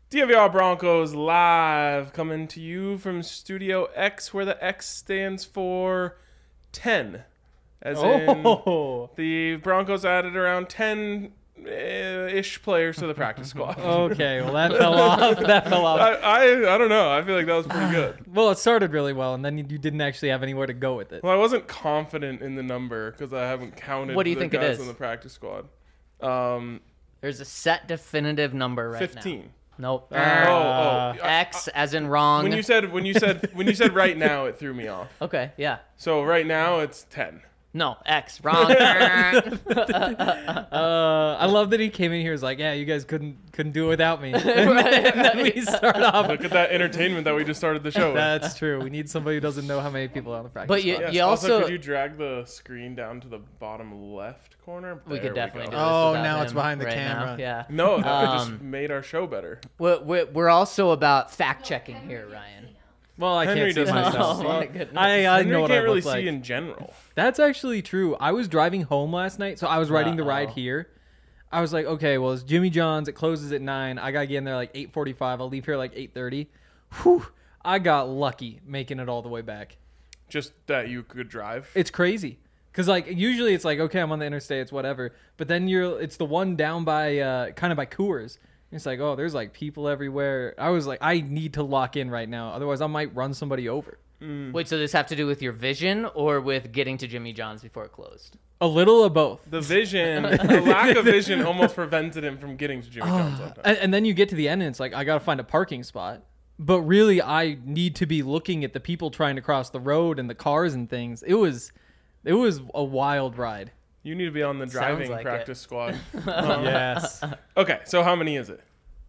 DNVR Broncos live coming to you from Studio X, where the X stands for 10. As in the Broncos added around 10-ish players to the practice squad. Okay, well that fell off. I don't know. I feel like that was pretty good. Well, it started really well, and then you didn't actually have anywhere to go with it. Well, I wasn't confident in the number because I haven't counted What do you the think it guys is? on the practice squad. There's a set definitive number right 15. now. Nope. X X as in wrong. When you said right now, it threw me off. Okay, yeah. So right now it's 10. No, X. Wrong. I love that he came in here and was like, yeah, you guys couldn't do it without me. And then we start off. Look at that entertainment that we just started the show with. That's true. We need somebody who doesn't know how many people are on the practice But squad. Yes, you also could you drag the screen down to the bottom left corner? we could definitely do this. Oh, without now it's him behind the right now. camera. Yeah. No, that just made our show better. We're also about fact checking here, Ryan. Well, I Henry can't see doesn't myself. Oh my goodness. I Henry know what can't I really look like. see in general. That's actually true. I was driving home last night, so I was riding the ride here. I was like, okay, well, it's Jimmy John's. It closes at 9. I got to get in there like 8:45. I'll leave here like 8:30. Whew. I got lucky making it all the way back. Just that you could drive. It's crazy. Because like usually it's like, okay, I'm on the interstate. It's whatever. But then it's the one down by kind of by Coors. It's like, oh, there's like people everywhere. I was like, I need to lock in right now. Otherwise, I might run somebody over. Wait, so this have to do with your vision or with getting to Jimmy John's before it closed? A little of both. The lack of vision almost prevented him from getting to Jimmy John's on time. And then you get to the end and it's like, I got to find a parking spot. But really, I need to be looking at the people trying to cross the road and the cars and things. It was a wild ride. You need to be on the driving like practice squad. Yes. Okay, so how many is it?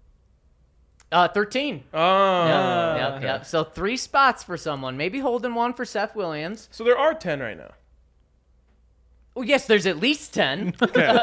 13. Oh. Yep. So 3 spots for someone. Maybe holding one for Seth Williams. So there are 10 right now. Oh, yes, there's at least 10.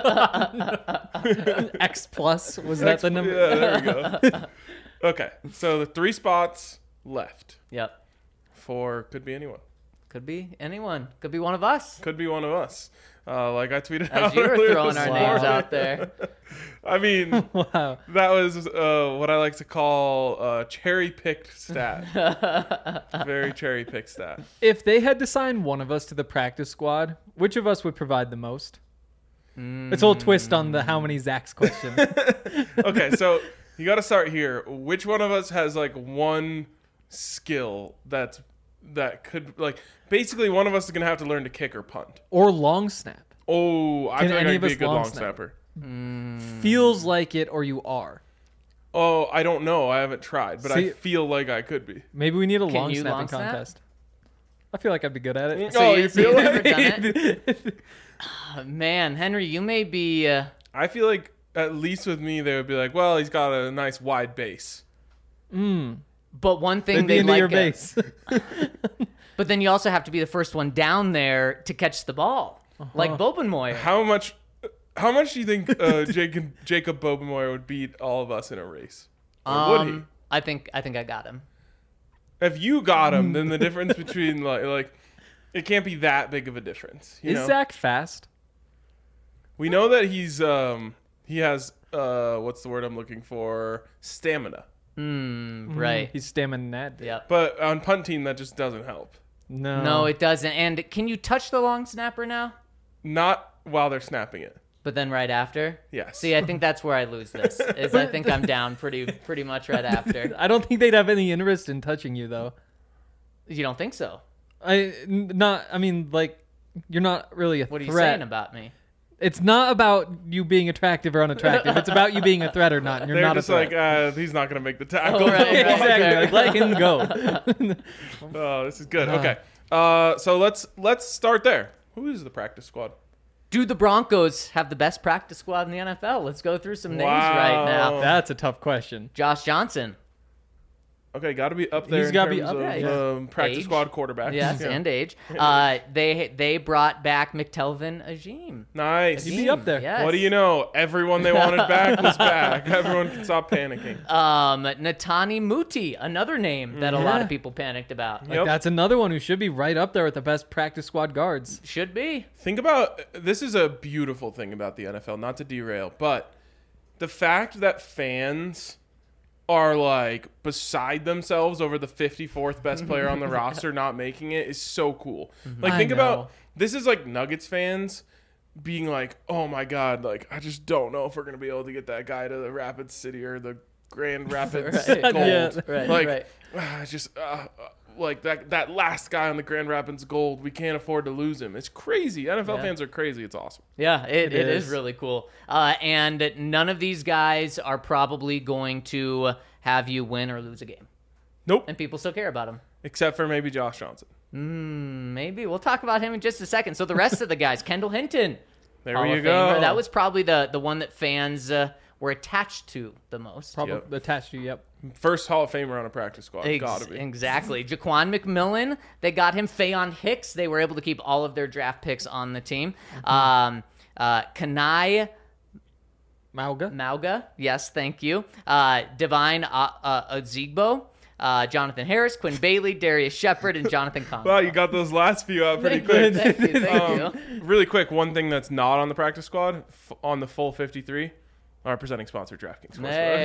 X plus, was that the number? Yeah, there we go. Okay, so the 3 spots left Yep. for could be anyone. Could be anyone. Could be one of us. Could be one of us. Like I tweeted As out you were earlier throwing this our morning. names out there. I mean, Wow. that was what I like to call cherry-picked stat. Very cherry-picked stat. If they had to sign one of us to the practice squad, which of us would provide the most? It's a little twist on the how many Zach's question. Okay, so you got to start here. Which one of us has like one skill that could like basically one of us is gonna have to learn to kick or punt? Or long snap. Oh, I Can feel like any I'd of be us a good long long snap? snapper. Feels like it or you are. Oh, I don't know. I haven't tried, but I See- feel like I could be. Maybe we need a long you snapping long snap? contest. I feel like I'd be good at it. Oh, you- you so feel you've like? never done it? Man, Henry, you may be... I feel like at least with me, they would be like, well, he's got a nice wide base. But one thing They'd be they into like... your base. But then you also have to be the first one down there to catch the ball. Like Bobenmoyer. How much do you think Jacob Bobenmoyer would beat all of us in a race? Or would he? I think I got him. If you got him, then the difference between like it can't be that big of a difference. You Is know? Zach fast? We know that he has what's the word I'm looking for? Stamina. Right. He's stamina. Yep. But on punt team, that just doesn't help. No, it doesn't. And can you touch the long snapper now? Not while they're snapping it. But then right after? Yes. See, I think that's where I lose this. Is I think I'm down pretty much right after. I don't think they'd have any interest in touching you, though. You don't think so? I mean, like, you're not really a What are threat. you saying about me? It's not about you being attractive or unattractive. It's about you being a threat or not. And you're They're not just a threat. like, he's not going to make the tackle. Oh, right. Exactly. Like, let him go. Oh, this is good. Okay. So let's start there. Who is the practice squad? Do the Broncos have the best practice squad in the NFL? Let's go through some names Wow. right now. That's a tough question. Josh Johnson. Okay, got to be up there. He's in gotta be terms up of, there. practice Age. squad quarterbacks. Yes, Yeah. and age. They brought back McTelvin Ajim. Nice. He'd be up there. Yes. What do you know? Everyone they wanted back was back. Everyone can stop panicking. Natani Muti, another name that a lot of people panicked about. Yep. That's another one who should be right up there with the best practice squad guards. Should be. Think about this is a beautiful thing about the NFL, not to derail, but the fact that fans are like beside themselves over the 54th best player on the roster not making it is so cool. Like, think about this is like Nuggets fans being like, oh my God, like, I just don't know if we're going to be able to get that guy to the Rapid City or the Grand Rapids Gold. Yeah, Like that last guy on the Grand Rapids Gold, we can't afford to lose him. It's crazy. NFL fans are crazy. It's awesome. Yeah, it is really cool. And none of these guys are probably going to have you win or lose a game. Nope. And people still care about them. Except for maybe Josh Johnson. Maybe. We'll talk about him in just a second. So the rest of the guys, Kendall Hinton. There Hall you of go. Famer. That was probably the one that fans were attached to the most. Probably attached to, yep. First Hall of Famer on a practice squad. Gotta be. Exactly. Jaquan McMillan, they got him. Fayon Hicks, they were able to keep all of their draft picks on the team. Kanai Mauga, yes, thank you. Divine Ozigbo, Jonathan Harris, Quinn Bailey, Darius Shepard, and Jonathan Conway. Wow, you got those last few out pretty quick. Thank you. Really quick, one thing that's not on the practice squad, on the full 53, our presenting sponsor, DraftKings. Hey.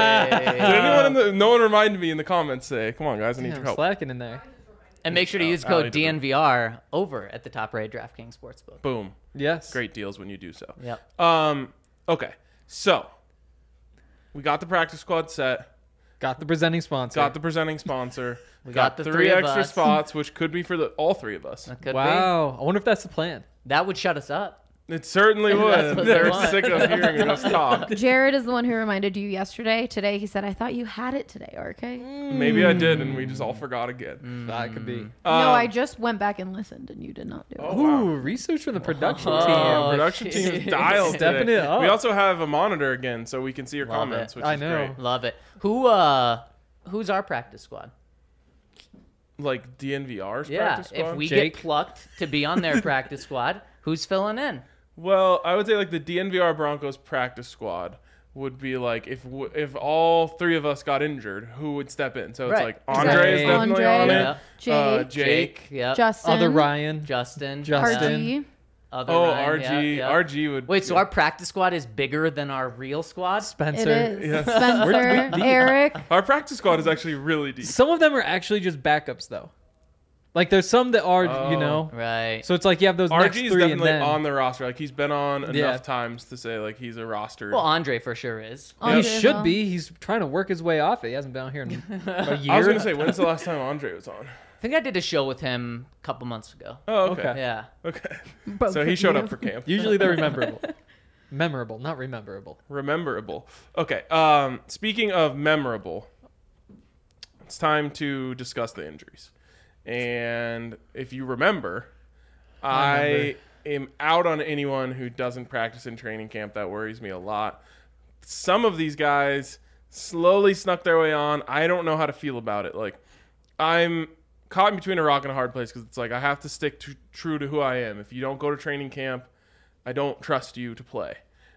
No one reminded me in the comments today. Come on, guys, I need your Damn, help. slacking in there. And make sure to use code DNVR over at the top-rated DraftKings Sportsbook. Boom. Yes. Great deals when you do so. Yep. Okay, so we got the practice squad set. Got the presenting sponsor. Got the presenting sponsor. We got the three three of extra us. spots, which could be for all three of us. That could Wow. I wonder if that's the plan. be. That would shut us up. It certainly That's would. what they They're want. sick of hearing us talk. Jared is the one who reminded you yesterday. Today, he said, I thought you had it today, RK. Maybe I did, and we just all forgot again. That could be. No, I just went back and listened, and you did not do it. Oh, wow. Ooh, research from the production Oh, team. Production team is dialed Stepping today. it up. We also have a monitor again, so we can see your Love comments, it. which I is know. great. Love it. Who's our practice squad? Like DNVR's Yeah, practice squad? if we Jake. get plucked to be on their practice squad, who's filling in? Well, I would say like the DNVR Broncos practice squad would be like if all three of us got injured, who would step in? So it's Right. like Andre is definitely Andre. on Yeah. it. Jake. Yep. Justin. Other Ryan. Justin. RG. Other Oh, Ryan, RG. yeah. RG would. Wait, so our practice squad is bigger than our real squad? Spencer. It is. Yes. Spencer, deep. Eric. Our practice squad is actually really deep. Some of them are actually just backups, though. Like, there's some that are, you know. Right. So it's like you have those next RG is three and definitely then. on the roster. Like he's been on enough Yeah. times to say like he's a roster. Well, Andre for sure is. He Andre should Hill. be. He's trying to work his way off it. He hasn't been out here in a year. I was gonna say, when's the last time Andre was on? I think I did a show with him a couple months ago. Oh, okay. Okay. Yeah. Okay. Both So he of showed you. up for camp. Usually they're memorable. Memorable, not rememberable. Rememberable. Okay. Speaking of memorable, it's time to discuss the injuries. And if you remember, I am out on anyone who doesn't practice in training camp. That worries me a lot. Some of these guys slowly snuck their way on. I don't know how to feel about it. Like, I'm caught in between a rock and a hard place because it's like I have to stick true to who I am. If you don't go to training camp, I don't trust you to play.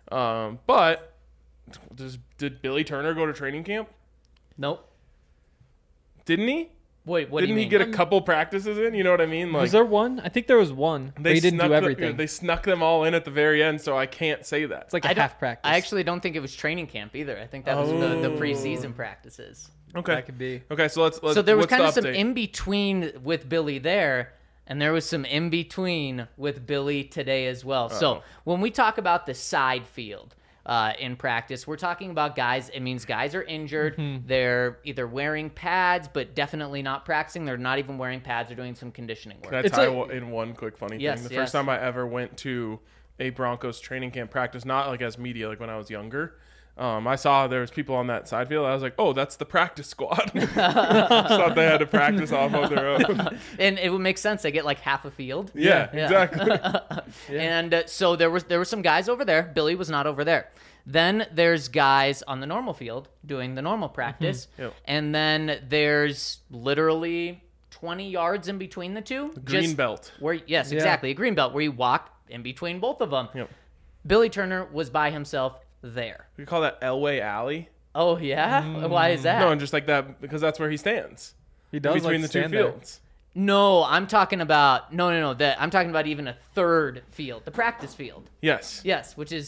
But did Billy Turner go to training camp? Nope. Didn't he? Wait, what do Didn't you he mean? get a couple practices in? You know what I mean? Like Was there one? I think there was one. But he didn't do everything. They snuck them all in at the very end, so I can't say that. It's like I a don't- half practice. I actually don't think it was training camp either. I think that was the preseason practices. Okay. That could be. Okay, so let's So there was what's the kind of some update? in between with Billy there, and there was some in between with Billy today as well. So when we talk about the side field in practice, we're talking about guys. It means guys are injured. They're either wearing pads, but definitely not practicing. They're not even wearing pads. They're doing some conditioning work. Can I It's tie like- in one quick funny Yes, thing? The yes. first time I ever went to a Broncos training camp practice, not like as media, like when I was younger, I saw there was people on that side field. I was like, oh, that's the practice squad. Just thought they had to practice off of their own. And it would make sense. They get like half a field. Yeah, Yeah. exactly. And so there were some guys over there. Billy was not over there. Then there's guys on the normal field doing the normal practice. Yep. And then there's literally 20 yards in between the two. Green belt. Yes, exactly. A green belt where you walk in between both of them. Yep. Billy Turner was by himself there. We call that Elway Alley. Oh, yeah? Why is that? No, and just like that because that's where he stands. He does Between like the to two stand there. fields. No, I'm talking about... No. I'm talking about even a third field. The practice field. Yes. Yes, which is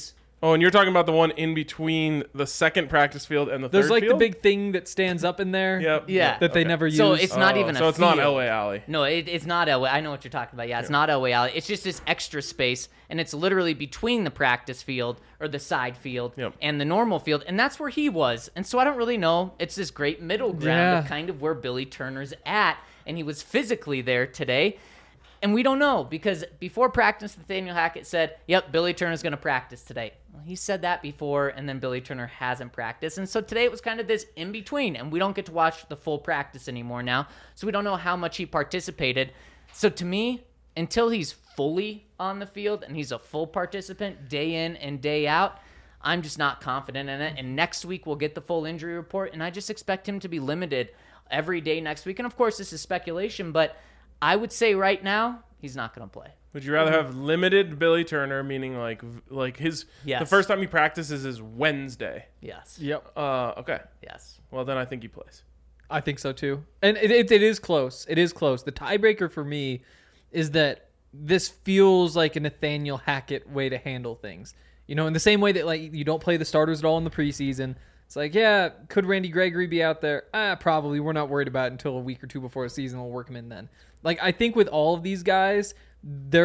Oh, and you're talking about the one in between the second practice field and the third There's like field? the big thing that stands up in there. Yep. Yeah. That they never use. So it's not even a So it's not field. Elway Alley. No, it's not Elway. I know what you're talking about. Yeah, it's not Elway Alley. It's just this extra space, and it's literally between the practice field or the side field Yep. and the normal field, and that's where he was. And so I don't really know. It's this great middle ground Yeah. of kind of where Billy Turner's at, and he was physically there today. And we don't know because before practice, Nathaniel Hackett said, yep, Billy Turner's going to practice today. Well, he said that before, and then Billy Turner hasn't practiced. And so today it was kind of this in-between, and we don't get to watch the full practice anymore now, so we don't know how much he participated. So to me, until he's fully on the field and he's a full participant day in and day out, I'm just not confident in it. And next week we'll get the full injury report, and I just expect him to be limited every day next week. And of course, this is speculation, but I would say right now, he's not going to play. Would you rather have limited Billy Turner, meaning like his Yes. the first time he practices is Wednesday? Yes. Yep. Okay. Yes. Well, then I think he plays. I think so too. And it is close. It is close. The tiebreaker for me is that this feels like a Nathaniel Hackett way to handle things. You know, in the same way that like you don't play the starters at all in the preseason. It's like, yeah, could Randy Gregory be out there? Probably. We're not worried about it until a week or two before the season. We'll work him in then. Like, I think with all of these guys, they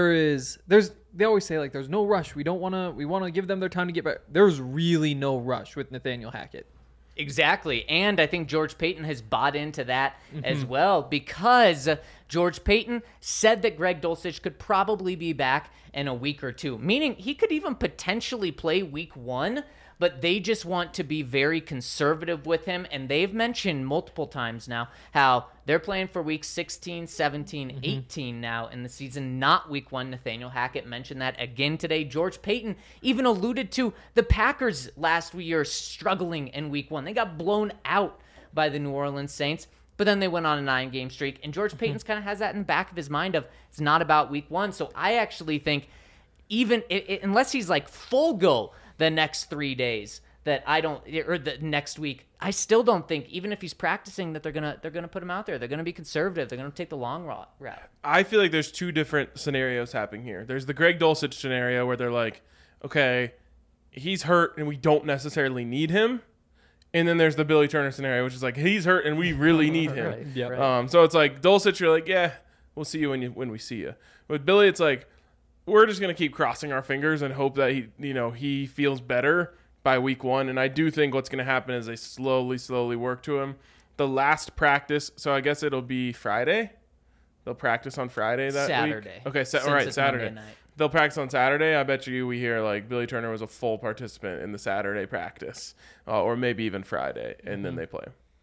always say like, there's no rush. We want to give them their time to get back. There's really no rush with Nathaniel Hackett. Exactly. And I think George Payton has bought into that as well because George Payton said that Greg Dulcich could probably be back in a week or two, meaning he could even potentially play week 1, but they just want to be very conservative with him. And they've mentioned multiple times now how they're playing for week 16, 17, 18 now in the season, not week 1. Nathaniel Hackett mentioned that again today. George Payton even alluded to the Packers last year struggling in week 1. They got blown out by the New Orleans Saints, but then they went on a 9-game streak. And George Payton's kind of has that in the back of his mind of it's not about week 1. So I actually think even unless he's like full go the next 3 days that I don't, or the next week, I still don't think, even if he's practicing, that they're gonna put him out there. They're gonna be conservative. They're gonna take the long route. I feel like there's two different scenarios happening here. There's the Greg Dulcich scenario where they're like, okay, he's hurt and we don't necessarily need him. And then there's the Billy Turner scenario, which is like, he's hurt and we really need him. Right. Yep. Right. So it's like Dulcich, you're like, yeah, we'll see you when we see you. With Billy, it's like, we're just gonna keep crossing our fingers and hope that he feels better by week 1. And I do think what's gonna happen is they slowly work to him. The last practice, so I guess it'll be Friday. They'll practice on Friday that Saturday. week. Okay, Since all right, it's Saturday. Monday night. They'll practice on Saturday. I bet you we hear like Billy Turner was a full participant in the Saturday practice, or maybe even Friday, and then they play.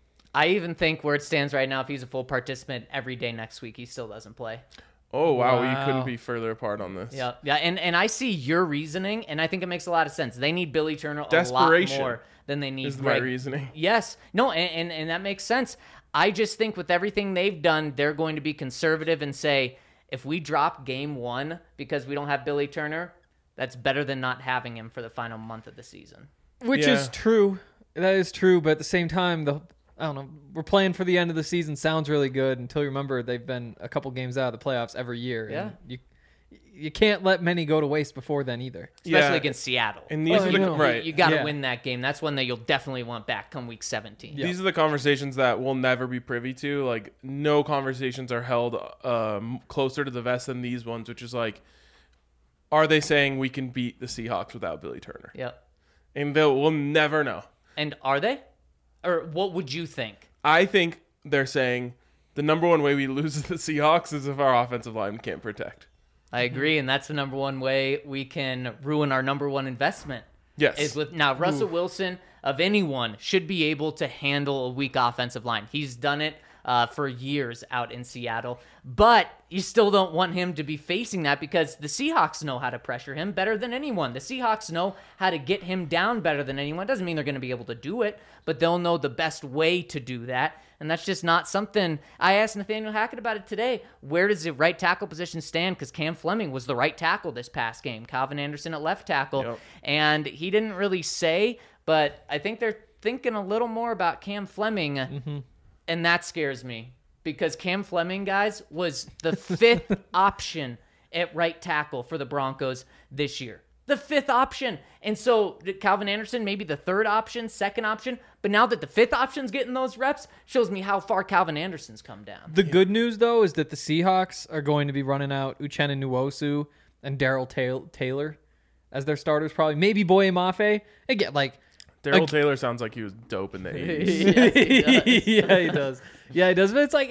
I even think where it stands right now, if he's a full participant every day next week, he still doesn't play. Oh wow, you Wow. couldn't be further apart on this. Yeah, and I see your reasoning, and I think it makes a lot of sense. They need Billy Turner a lot Desperation more than they need is my Greg. reasoning. Yes, no, and that makes sense. I just think with everything they've done, they're going to be conservative and say, if we drop game 1 because we don't have Billy Turner, that's better than not having him for the final month of the season. Which Yeah. is true. That is true. But at the same time, I don't know. We're playing for the end of the season. Sounds really good until you remember they've been a couple games out of the playoffs every year. Yeah. And you can't let many go to waste before then either. Especially Yeah. against Seattle. And these Oh, are I the know. right. You got to Yeah. win that game. That's one that you'll definitely want back come week 17. Yeah. These are the conversations that we'll never be privy to. Like, no conversations are held closer to the vest than these ones, which is like, are they saying we can beat the Seahawks without Billy Turner? Yep. And we'll never know. And are they? Or what would you think? I think they're saying the number one way we lose the Seahawks is if our offensive line can't protect. I agree, and that's the number one way we can ruin our number one investment. Yes. Is with now Russell Wilson of anyone should be able to handle a weak offensive line. He's done it for years out in Seattle, but you still don't want him to be facing that because the Seahawks know how to pressure him better than anyone. The Seahawks know how to get him down better than anyone. Doesn't mean they're going to be able to do it, but they'll know the best way to do that. And that's just not something. I asked Nathaniel Hackett about it today. Where does the right tackle position stand? Because Cam Fleming was the right tackle this past game. Calvin Anderson at left tackle. Yep. And he didn't really say, but I think they're thinking a little more about Cam Fleming. And that scares me because Cam Fleming, guys, was the 5th option at right tackle for the Broncos this year. the fifth option. And so Calvin Anderson, maybe the third option, second option. But now that the fifth option's getting those reps, shows me how far Calvin Anderson's come down. The good news, though, is that the Seahawks are going to be running out Uchenna Nwosu and Darrell Taylor as their starters, probably. Maybe Boye Mafe. Again, like... Darrell Taylor sounds like he was dope in the 80s. Yeah, he does. Yeah, he does. But it's like...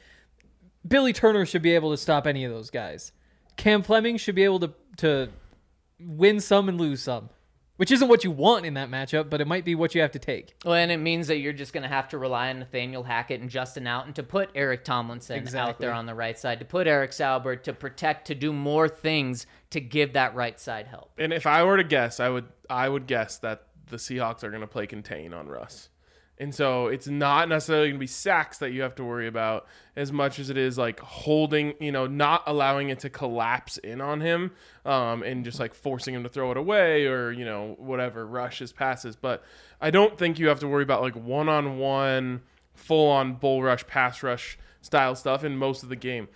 Billy Turner should be able to stop any of those guys. Cam Fleming should be able to win some and lose some, which isn't what you want in that matchup, but it might be what you have to take. Well, and it means that you're just going to have to rely on Nathaniel Hackett and Justin Alton to put Eric Tomlinson out there on the right side, to put Eric Saubert, to protect, to do more things to give that right side help. And if I were to guess, I would guess that the Seahawks are going to play contain on Russ. And so it's not necessarily going to be sacks that you have to worry about as much as it is like holding, not allowing it to collapse in on him and just like forcing him to throw it away or, whatever, rush his passes. But I don't think you have to worry about like one-on-one, full-on bull rush, pass rush style stuff in most of the game.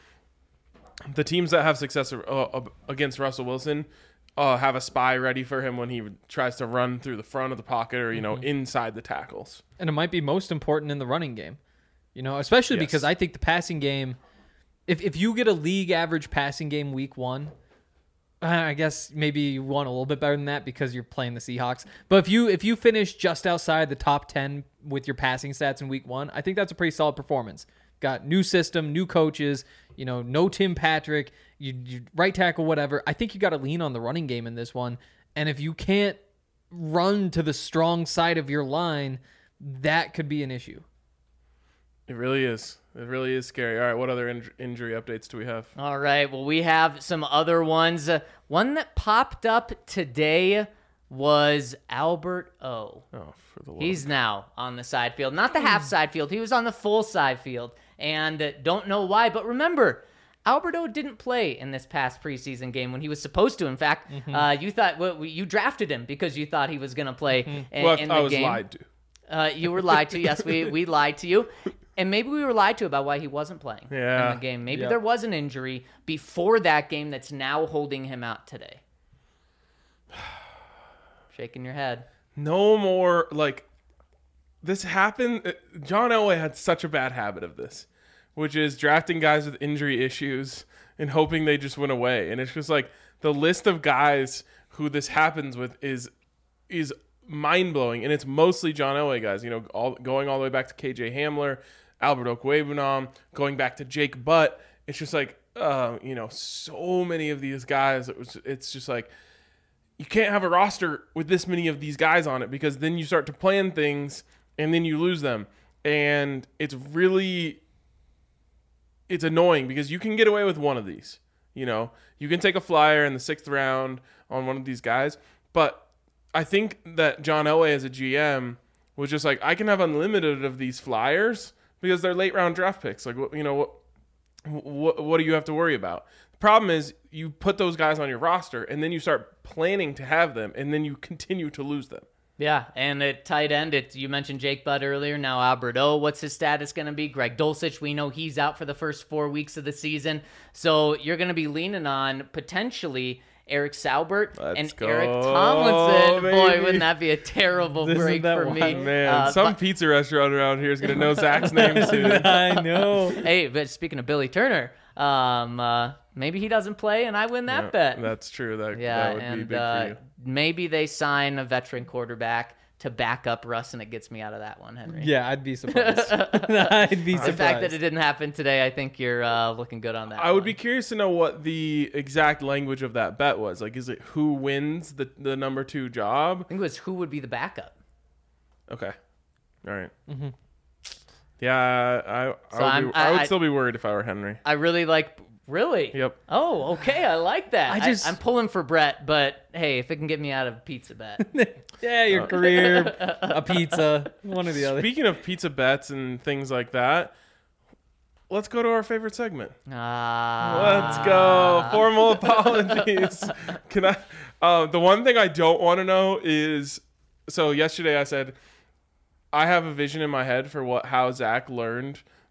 The teams that have success against Russell Wilson have a spy ready for him when he tries to run through the front of the pocket or, inside the tackles. And it might be most important in the running game, especially because I think the passing game, if you get a league average passing game week 1, I guess maybe you want a little bit better than that because you're playing the Seahawks. But if you finish just outside the top 10 with your passing stats in week 1, I think that's a pretty solid performance. Got new system, new coaches, no Tim Patrick, you right tackle, whatever. I think you got to lean on the running game in this one. And if you can't run to the strong side of your line, that could be an issue. It really is. It really is scary. All right, what other injury updates do we have? All right, well, we have some other ones. One that popped up today was Albert O. Oh, for the Lord. He's now on the side field. Not the half side field. He was on the full side field. And don't know why, but remember, Albert O didn't play in this past preseason game when he was supposed to. In fact, you thought you drafted him because you thought he was going to play in the game. I was lied to. You were lied to. Yes, we lied to you. And maybe we were lied to about why he wasn't playing in the game. Maybe there was an injury before that game that's now holding him out today. Shaking your head. No more, this happened. John Elway had such a bad habit of this, which is drafting guys with injury issues and hoping they just went away. And it's just like the list of guys who this happens with is mind-blowing. And it's mostly John Elway guys, going all the way back to KJ Hamler, Albert Okwuegbunam, going back to Jake Butt. It's just like, so many of these guys. It's just like, you can't have a roster with this many of these guys on it because then you start to plan things and then you lose them. And it's annoying because you can get away with one of these. You can take a flyer in the 6th round on one of these guys. But I think that John Elway as a GM was just like, I can have unlimited of these flyers because they're late round draft picks. Like, what do you have to worry about? The problem is you put those guys on your roster and then you start planning to have them and then you continue to lose them. Yeah, and at tight end, you mentioned Jake Butt earlier. Now Albert O, what's his status going to be? Greg Dulcich, we know he's out for the first 4 weeks of the season. So you're going to be leaning on potentially Eric Saubert and Eric Tomlinson. Baby. Boy, wouldn't that be a terrible break for me? Man, some pizza restaurant around here is going to know Zach's name soon. I know. Hey, but speaking of Billy Turner, maybe he doesn't play and I win that bet. That's true. That would be big for you. Maybe they sign a veteran quarterback to back up Russ, and it gets me out of that one, Henry. Yeah, I'd be surprised. I'd be surprised. The fact that it didn't happen today, I think you're looking good on that. I would be curious to know what the exact language of that bet was. Like, is it who wins the number 2 job? I think it was who would be the backup. Okay. All right. Mm-hmm. Yeah, I would still be worried if I were Henry. I really like... Really? Yep. Oh, okay. I like that. I'm pulling for Brett, but hey, if it can get me out of a pizza bet. Yeah, your career, a pizza, one or the other. Speaking of pizza bets and things like that, let's go to our favorite segment. Let's go. Formal apologies. Can I? The one thing I don't want to know is, so yesterday I said, I have a vision in my head for how Zach learned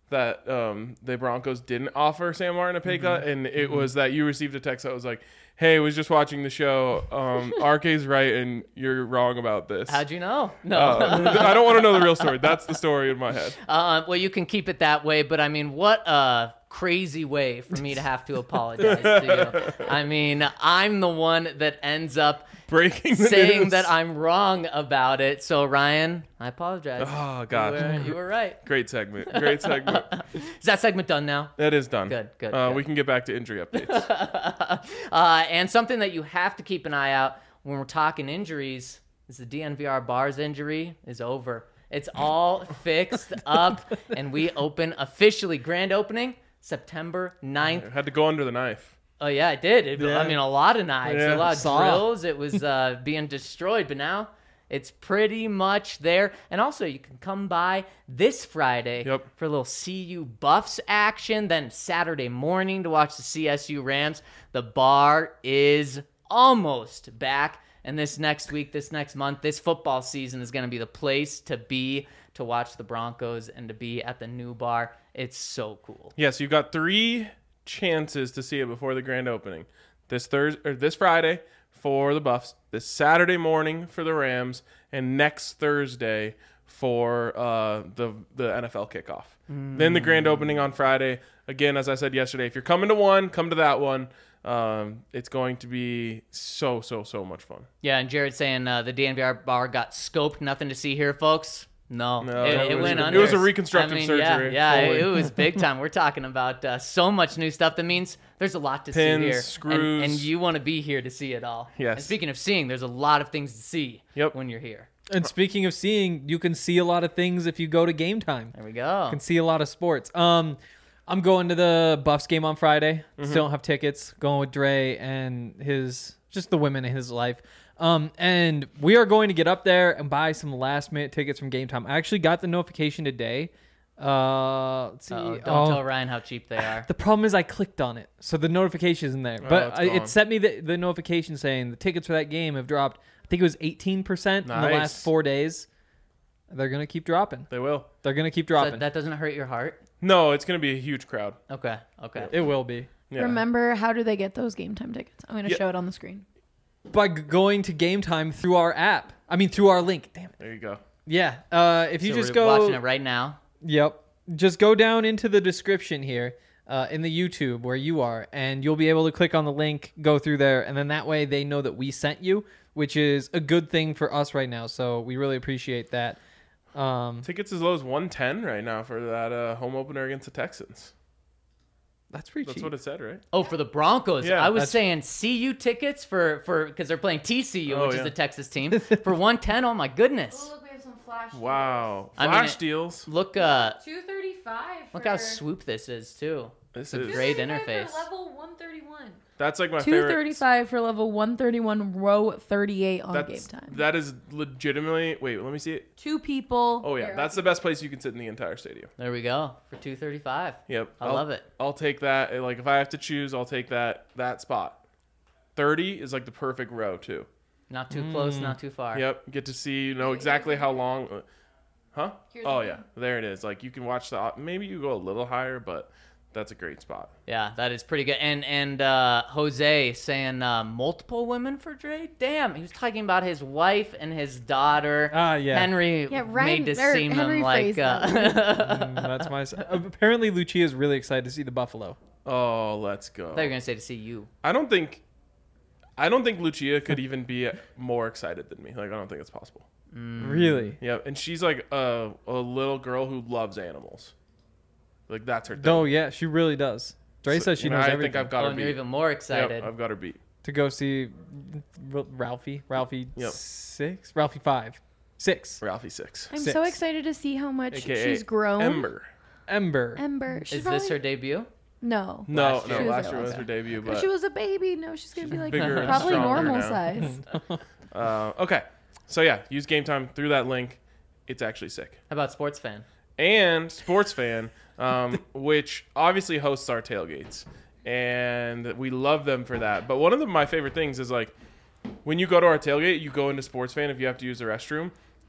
that the Broncos didn't offer Sam Martin a pay cut, and it was that you received a text that was like, "Hey, was just watching the show. RK's right, and you're wrong about this." How'd you know? No. I don't want to know the real story. That's the story in my head. Well, you can keep it that way, but I mean, what a crazy way for me to have to apologize to you. I mean, I'm the one that ends up Breaking the saying news. that I'm wrong about it. So, Ryan, I apologize. Oh, God. You were right. Great segment. Great segment. Is that segment done now? That is done. Good. We can get back to injury updates. And something that you have to keep an eye out when we're talking injuries is the DNVR bars injury is over. It's all fixed up, and we open officially. Grand opening, September 9th. I had to go under the knife. Oh, yeah, it did. I mean, a lot of knives, Yeah. a lot of Saw. drills. It was being destroyed, but now it's pretty much there. And also, you can come by this Friday for a little CU Buffs action, then Saturday morning to watch the CSU Rams. The bar is almost back. And this next week, this next month, this football season is going to be the place to be to watch the Broncos and to be at the new bar. It's so cool. Yes, you've got 3 chances to see it before the grand opening. This Friday for the Buffs, this Saturday morning for the Rams, and next Thursday for the NFL kickoff. Then the grand opening on Friday. Again, as I said yesterday, if you're coming to one, come to that one. It's going to be so much fun. Yeah, and Jared saying the DNVR bar got scoped. Nothing to see here, folks. No, it was went a- under. it was a reconstructive surgery, Yeah, fully. it was big time. We're talking about so much new stuff. That means there's a lot to Pins, see here. screws. And you want to be here to see it all. Yes. And speaking of seeing, there's a lot of things to see when you're here. And speaking of seeing, you can see a lot of things if you go to Game Time. There we go. You can see a lot of sports. I'm going to the Buffs game on Friday. Still don't have tickets. Going with Dre and just the women in his life. And we are going to get up there and buy some last minute tickets from Game Time. I actually got the notification today. Let's see. Don't tell Ryan how cheap they are. The problem is I clicked on it, so the notification isn't there. But it's gone. it sent me the notification saying the tickets for that game have dropped. I think it was 18% in the Nice. last 4 days. They're gonna keep dropping. They will. They're gonna keep So dropping. that doesn't hurt your heart? No, it's going to be a huge crowd. Okay. It will be. Yeah. Remember, how do they get those Game Time tickets? I'm going to show it on the screen. By going to Game Time through our app. I mean, through our link. Damn it. There you go. Yeah. If you So just we're go. watching it right now. Yep. Just go down into the description here in the YouTube where you are, and you'll be able to click on the link, go through there, and then that way they know that we sent you, which is a good thing for us right now. So we really appreciate that. Tickets as low as $110 right now for that home opener against the Texans. That's pretty That's cheap. what it said, right? Oh, for the Broncos. Yeah, I was that's- saying CU tickets for because they're playing TCU, Oh, which yeah. is the Texas team, for 110. Oh my goodness. look, we have some flash. Wow. I mean, Flash deals. Look, $235. look how swoop this is too. This a is great interface. Level 131. That's like my favorite. $235 for level 131, row 38 on Game That's Time. that is legitimately. Wait, let me see it. 2 people. Oh yeah, that's the best place you can sit in the entire stadium. There we go for 235. Yep, I love it. I'll take that. Like if I have to choose, I'll take that spot. 30 is like the perfect row too. Not too close, not too far. Yep, get to see exactly how long. Huh? Here's Oh the yeah, there it is. Like you can watch the. Maybe you go a little higher, but that's a great spot. Yeah, that is pretty good. And Jose saying multiple women for Dre. Damn, he was talking about his wife and his daughter. Yeah. Henry Yeah, Ryan- made this or seem Henry like. phrased that That's my. Apparently, Lucia is really excited to see the Buffalo. Oh, let's go. I thought you were gonna say to see you. I don't think Lucia could even be more excited than me. Like I don't think it's possible. Really? Yeah, and she's like a little girl who loves animals. Like that's her thing. Oh yeah, she really does. Dre says she knows I everything. think I've got Oh, her and you're beat. even more excited. Yep, I've got her beat. To go see Ralphie Yep. 6, Ralphie 5, 6, Ralphie 6. I'm 6. so excited to see how much AKA she's grown. Ember. Ember. She's Is this her debut? No. No, Last year. no, She was last there year was last her debut, When but she was a baby, no, she's going to be like bigger and probably stronger normal now. size. Okay. So yeah, use Game Time through that link. It's actually sick. How about sports fan? And Sports Fan, which obviously hosts our tailgates, and we love them for that. But one of my favorite things is like when you go to our tailgate, you go into Sports Fan if you have to use the restroom.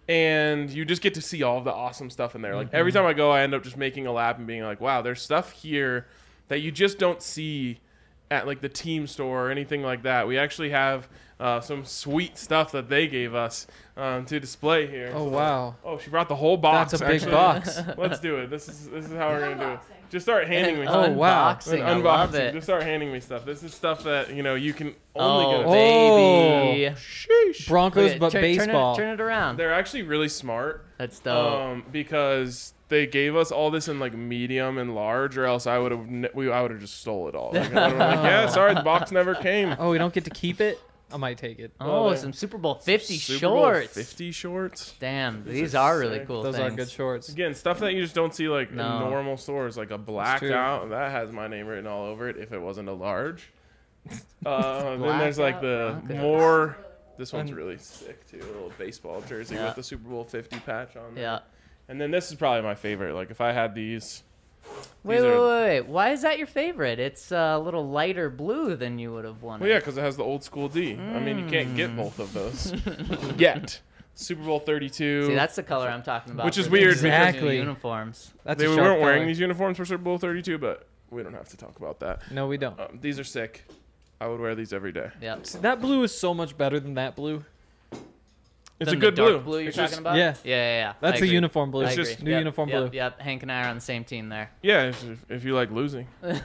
and you just get to see all of the awesome stuff in there. Like every time I go, I end up just making a lap and being like, wow, there's stuff here that you just don't see at like the team store or anything like that. We actually have some sweet stuff that they gave us to display here. Oh, wow. Oh, she brought the whole box. That's a big actually. box. Let's do it. This is how we're gonna do it. Just start handing me Oh, stuff. wow. Unboxing. I love it. Just start handing me stuff. This is stuff that you can only get. Oh, baby. Sheesh. Broncos, Okay, but baseball. Turn it around. They're actually really smart. That's dope. Because they gave us all this in like medium and large, or else I would have just stole it all. Like, yeah, sorry, the box never came. Oh, we don't get to keep it? I might take it. Oh, there. some Super Bowl 50 Super Bowl shorts. 50 shorts. Damn, these are are really sick. cool Those things. are good shorts. Again, stuff that you just don't see like No. in normal stores, like a blacked true. out that has my name written all over it. If it wasn't a large, then there's like the Blackout Broncos. more. This one's really sick too. A little baseball jersey Yeah. with the Super Bowl 50 patch on there. Yeah. And then this is probably my favorite. Like if I had these. Wait. Why is that your favorite? It's a little lighter blue than you would have wanted. Well, yeah, because it has the old school D. I mean, you can't get both of those yet. Super Bowl 32. See, that's the color I'm talking about. Which is for weird these because- new Exactly. uniforms. That's They a weren't sharp wearing color. these uniforms for Super Bowl 32, but we don't have to talk about that. No, we don't. These are sick. I would wear these every day. Yep. That blue is so much better than that blue. It's Than a good the dark blue. you're It's talking just- about? Yeah. Yeah. That's I the agree. uniform blue. I It's agree. just new Yep, uniform yep, blue. Yep. Hank and I are on the same team there. Yeah, if you like losing.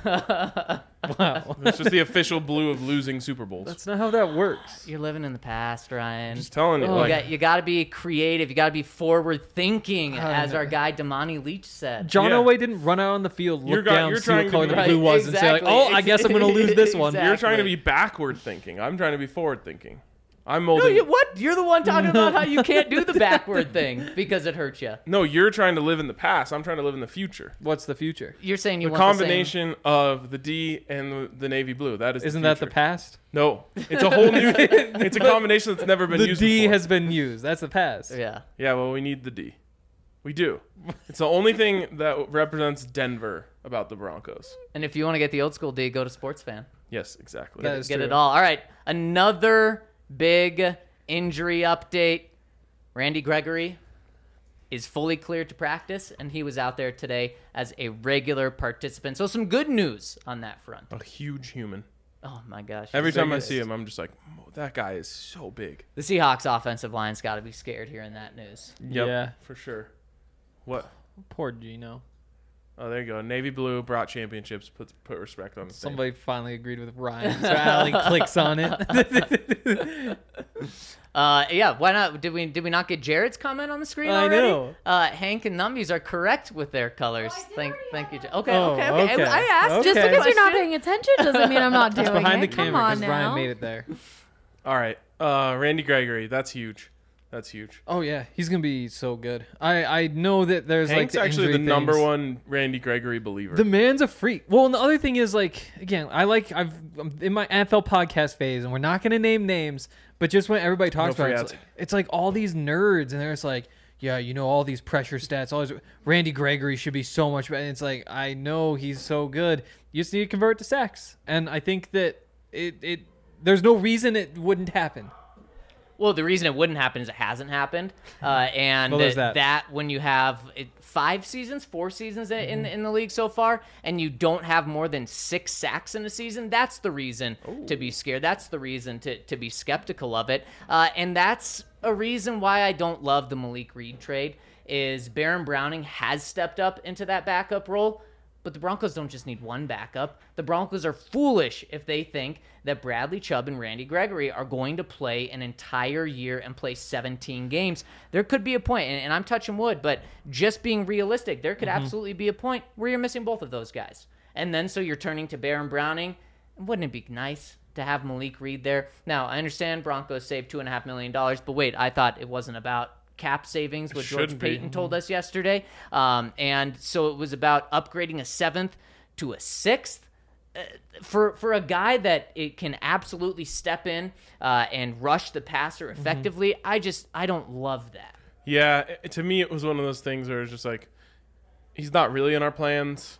Wow. It's just the official blue of losing Super Bowls. That's not how that works. You're living in the past, Ryan. Just telling you. Oh, like, You got to be creative. You got to be forward thinking, God. as our guy Damani Leach said. John Yeah. Elway didn't run out on the field, You're look got- down, you're see what trying to color be- the blue Right, was, and say like, exactly. "Oh, I guess I'm going to lose this one." Exactly. you're trying to be backward thinking. I'm trying to be forward thinking. I'm No, molding. what? You're the one talking about how you can't do the backward thing because it hurts you. No, you're trying to live in the past. I'm trying to live in the future. What's the future? You're saying you The want combination of the D and the navy blue. That is. Isn't the that the future. past? No, it's a whole new. It's a combination that's never been The used. D before. has been used. That's the past. The same. Yeah. Yeah, well, we need the D. We do. It's the only thing that represents Denver about the Broncos. And if you want to get the old school D, go to Sports Fan. Yes, exactly. That is Get true. it all. All right. Another big injury update. Randy Gregory is fully cleared to practice, and he was out there today as a regular participant. So some good news on that front. A huge human. Oh, my gosh. Every He's so time I good. see him, I'm just like, that guy is so big. The Seahawks offensive line's got to be scared hearing that news. Yep, Yeah. for sure. What? Poor Gino. Oh, there you go. Navy blue brought championships. Put respect on the name. Somebody finally agreed with Ryan, so Allie clicks on it. Yeah, why not? Did we not get Jared's comment on the screen I already? know. Hank and Numbies are correct with their colors. Thank you. Okay, Oh, okay. okay. I asked Just Okay. because you're not Question? paying attention doesn't mean I'm not doing It's behind it. the Come camera on because now. Ryan made it there. All right. Randy Gregory. That's huge. That's huge. Oh yeah, he's gonna be so good. I know that there's Hank's like the actually the injury number things. one Randy Gregory believer. The man's a freak. Well, and the other thing is like again, I'm in my NFL podcast phase, and we're not gonna name names, but just when everybody talks No about free it, ads. it's like all these nerds, and they're just like, yeah, you know, all these pressure stats, all these Randy Gregory should be so much better. And it's like I know he's so good. You just need to convert to sacks, and I think that it there's no reason it wouldn't happen. Well, the reason it wouldn't happen is it hasn't happened, and Well, there's that. when you have 4 seasons in the league so far, and you don't have more than 6 sacks in a season, that's the reason to be scared. That's the reason to be skeptical of it, and that's a reason why I don't love the Malik Reed trade. Is Baron Browning has stepped up into that backup role. But the Broncos don't just need one backup. The Broncos are foolish if they think that Bradley Chubb and Randy Gregory are going to play an entire year and play 17 games. There could be a point, and I'm touching wood, but just being realistic, there could absolutely be a point where you're missing both of those guys. And then so you're turning to Baron Browning. Wouldn't it be nice to have Malik Reed there? Now, I understand Broncos saved $2.5 million, but wait, I thought it wasn't about cap savings, what George shouldn't be. Payton told us yesterday. And so it was about upgrading a 7th to a 6th. For a guy that it can absolutely step in and rush the passer effectively, I don't love that. Yeah, to me, it was one of those things where it's just like, he's not really in our plans.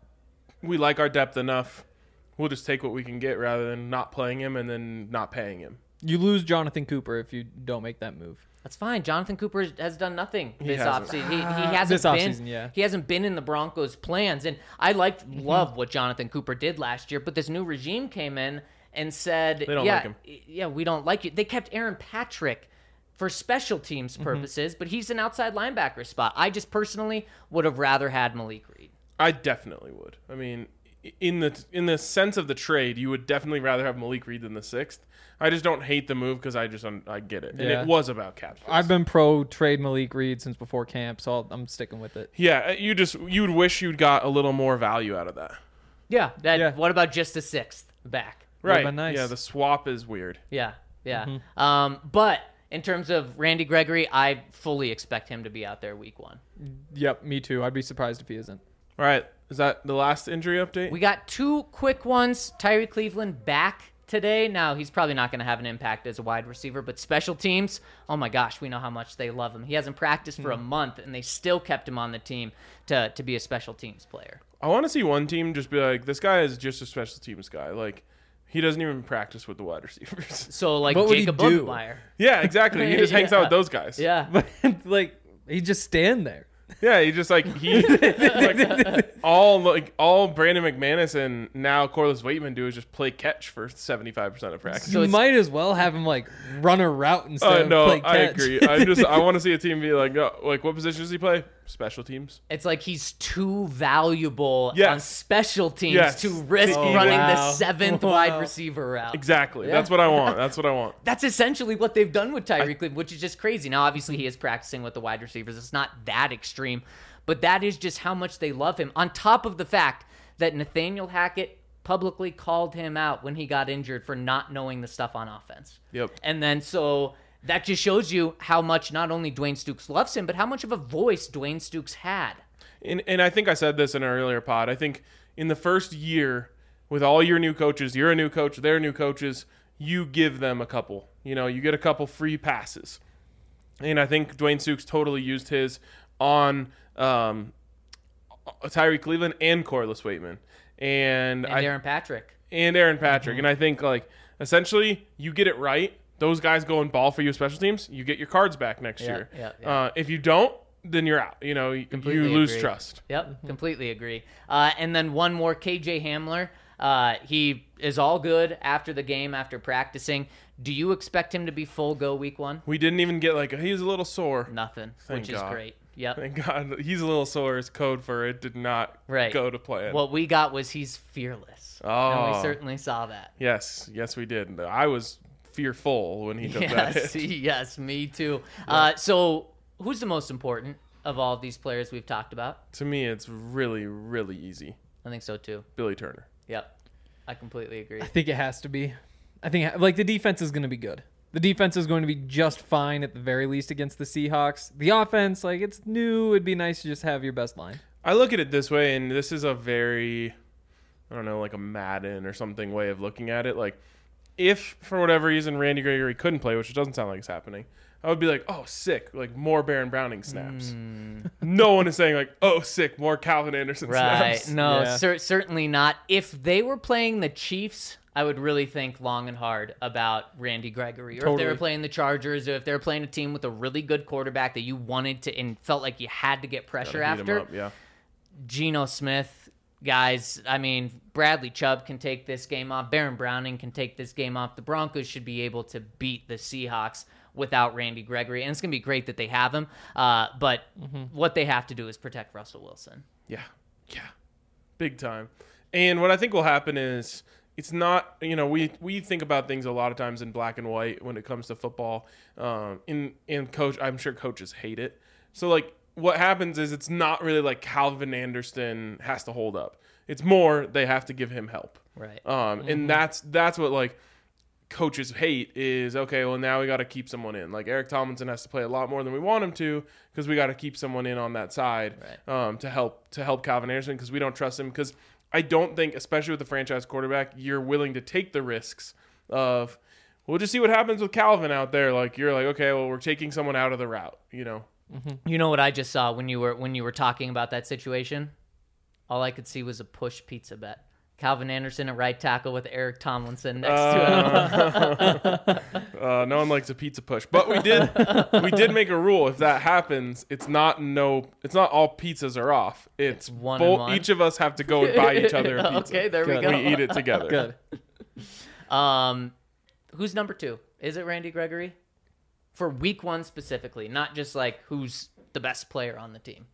We like our depth enough. We'll just take what we can get rather than not playing him and then not paying him. You lose Jonathan Cooper if you don't make that move. That's fine. Jonathan Cooper has done nothing this hasn't. offseason. He hasn't This been. offseason, yeah. He hasn't been in the Broncos' plans, and I love what Jonathan Cooper did last year. But this new regime came in and said, They don't like him. Yeah, we don't like you. They kept Aaron Patrick for special teams purposes, but he's an outside linebacker spot. I just personally would have rather had Malik Reed. I definitely would. I mean, in the sense of the trade, you would definitely rather have Malik Reed than the 6th. I just don't hate the move because I get it. And Yeah. it was about cap space. I've been pro trade Malik Reed since before camp, so I'm sticking with it. Yeah, you'd wish you'd got a little more value out of that. Yeah. Yeah. What about just the 6th back? Right. Would've been nice. Yeah, the swap is weird. Yeah. But in terms of Randy Gregory, I fully expect him to be out there week 1. Yep, me too. I'd be surprised if he isn't. All right. Is that the last injury update? We got 2 quick ones. Tyree Cleveland back today. Now, he's probably not going to have an impact as a wide receiver, but special teams, oh my gosh, we know how much they love him. He hasn't practiced for a month, and they still kept him on the team to be a special teams player. I want to see one team just be like, this guy is just a special teams guy. Like, he doesn't even practice with the wide receivers. So, like What would he Jacob do? Buckmeyer. Yeah, exactly. He just hangs out with those guys. Yeah. But like, he just stand there. Yeah, he just like all Brandon McManus and now Corliss Waitman do is just play catch for 75% of practice. So you it's- might as well have him like run a route instead of no, play I catch. agree. I want to see a team be like, oh, like what position does he play? Special teams. It's like he's too valuable Yes. on special teams Yes. to risk Oh, running the wow. 7th Wow. wide receiver route. Exactly. Yeah. That's what I want. That's what I want. That's essentially what they've done with Tyreek Cleveland, which is just crazy. Now, obviously, he is practicing with the wide receivers. It's not that extreme, but that is just how much they love him. On top of the fact that Nathaniel Hackett publicly called him out when he got injured for not knowing the stuff on offense. Yep. And then so that just shows you how much not only Dwayne Stooks loves him, but how much of a voice Dwayne Stooks had. And I think I said this in an earlier pod. I think in the first year, with all your new coaches, you're a new coach, they're new coaches, you give them a couple. You know, you get a couple free passes. And I think Dwayne Stooks totally used his on Tyree Cleveland and Corliss Waitman. And Aaron Patrick. And I think, like, essentially, you get it right. Those guys go and ball for you special teams. You get your cards back next year. Yeah. If you don't, then you're out. You know, you Completely lose agree. trust. Yep, completely agree. And then one more, KJ Hamler. He is all good after the game, after practicing. Do you expect him to be full go week 1? We didn't even get he's a little sore. Nothing, Thank which is God. great. Yep. Thank God. He's a little sore is code for it did not go to plan. What we got was he's fearless. And Oh. we certainly saw that. Yes, we did. I was fearful when he took that Yes, hit. yes, me too. So who's the most important of all of these players we've talked about? To me, it's really, really easy. I think so too. Billy Turner. Yep. I completely agree. I think it has to be. I think like the defense is going to be good. The defense is going to be just fine at the very least against the Seahawks. The offense, like it's new. It'd be nice to just have your best line. I look at it this way, and this is a very, I don't know, like a Madden or something way of looking at it. Like, if for whatever reason Randy Gregory couldn't play, which it doesn't sound like it's happening, I would be like, oh, sick, like more Baron Browning snaps. No one is saying like, oh, sick, more Calvin Anderson Right. snaps. No, Yeah. certainly not. If they were playing the Chiefs, I would really think long and hard about Randy Gregory. Or if they Totally. were playing the Chargers, or if they were playing a team with a really good quarterback that you wanted to and felt like you had to get pressure Gotta heat 'em after. up, yeah. Geno Smith, guys, I mean, Bradley Chubb can take this game off. Baron Browning can take this game off. The Broncos should be able to beat the Seahawks without Randy Gregory. And it's going to be great that they have him. But what they have to do is protect Russell Wilson. Yeah. Big time. And what I think will happen is it's not, we think about things a lot of times in black and white when it comes to football. In coach, I'm sure coaches hate it. So like what happens is it's not really like Calvin Anderson has to hold up. It's more they have to give him help. Right. And that's what like coaches hate is, okay, well now we got to keep someone in. Like Eric Tomlinson has to play a lot more than we want him to because we got to keep someone in on that side to help Calvin Anderson because we don't trust him because I don't think, especially with the franchise quarterback, you're willing to take the risks of we'll just see what happens with Calvin out there. Like you're like, okay, well we're taking someone out of the route, You know what I just saw when you were talking about that situation? All I could see was a push pizza bet. Calvin Anderson at right tackle with Eric Tomlinson next to him. No one likes a pizza push, but we did make a rule. If that happens, it's not all pizzas are off. It's one and one. Each of us have to go and buy each other a pizza. Okay, there we go. We eat it together. Good. Who's number 2? Is it Randy Gregory? For week 1 specifically, not just like who's the best player on the team.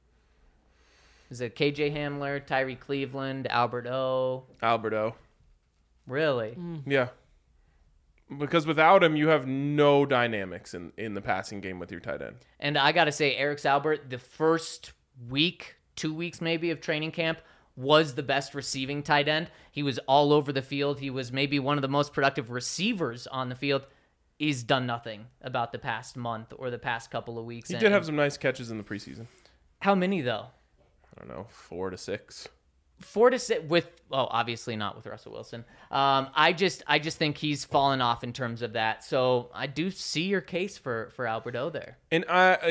Is it KJ Hamler, Tyree Cleveland, Albert O? Alberto. Really? Yeah. Because without him, you have no dynamics in the passing game with your tight end. And I got to say, Eric Albert, the first week, 2 weeks maybe of training camp, was the best receiving tight end. He was all over the field. He was maybe one of the most productive receivers on the field. He's done nothing about the past month or the past couple of weeks. He did have some nice catches in the preseason. How many, though? I don't know, 4 to 6. 4 to 6 with, obviously not with Russell Wilson. I just think he's fallen off in terms of that. So I do see your case for Alberto there. And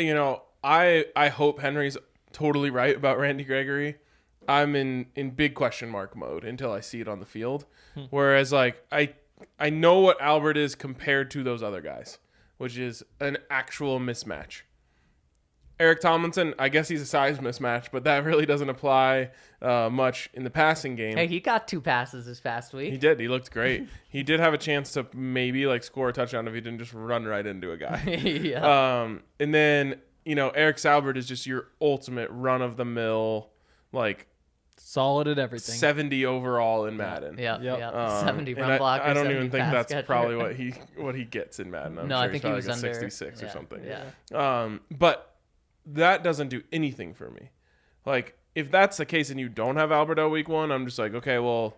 I hope Henry's totally right about Randy Gregory. I'm in big question mark mode until I see it on the field. Whereas like I know what Albert is compared to those other guys, which is an actual mismatch. Eric Tomlinson, I guess he's a size mismatch, but that really doesn't apply much in the passing game. Hey, he got 2 passes this past week. He did. He looked great. He did have a chance to maybe like score a touchdown if he didn't just run right into a guy. Yeah. And then, Eric Salbert is just your ultimate run-of-the-mill, like, solid at everything. 70 overall in Madden. Yeah. 70 And run blocker. I don't 70 even think pass that's catcher. probably what he gets in Madden. I'm No, sure I think he he's was probably under like a 66 or something. Yeah. But that doesn't do anything for me. Like, if that's the case and you don't have Alberto week 1, I'm just like, okay, well,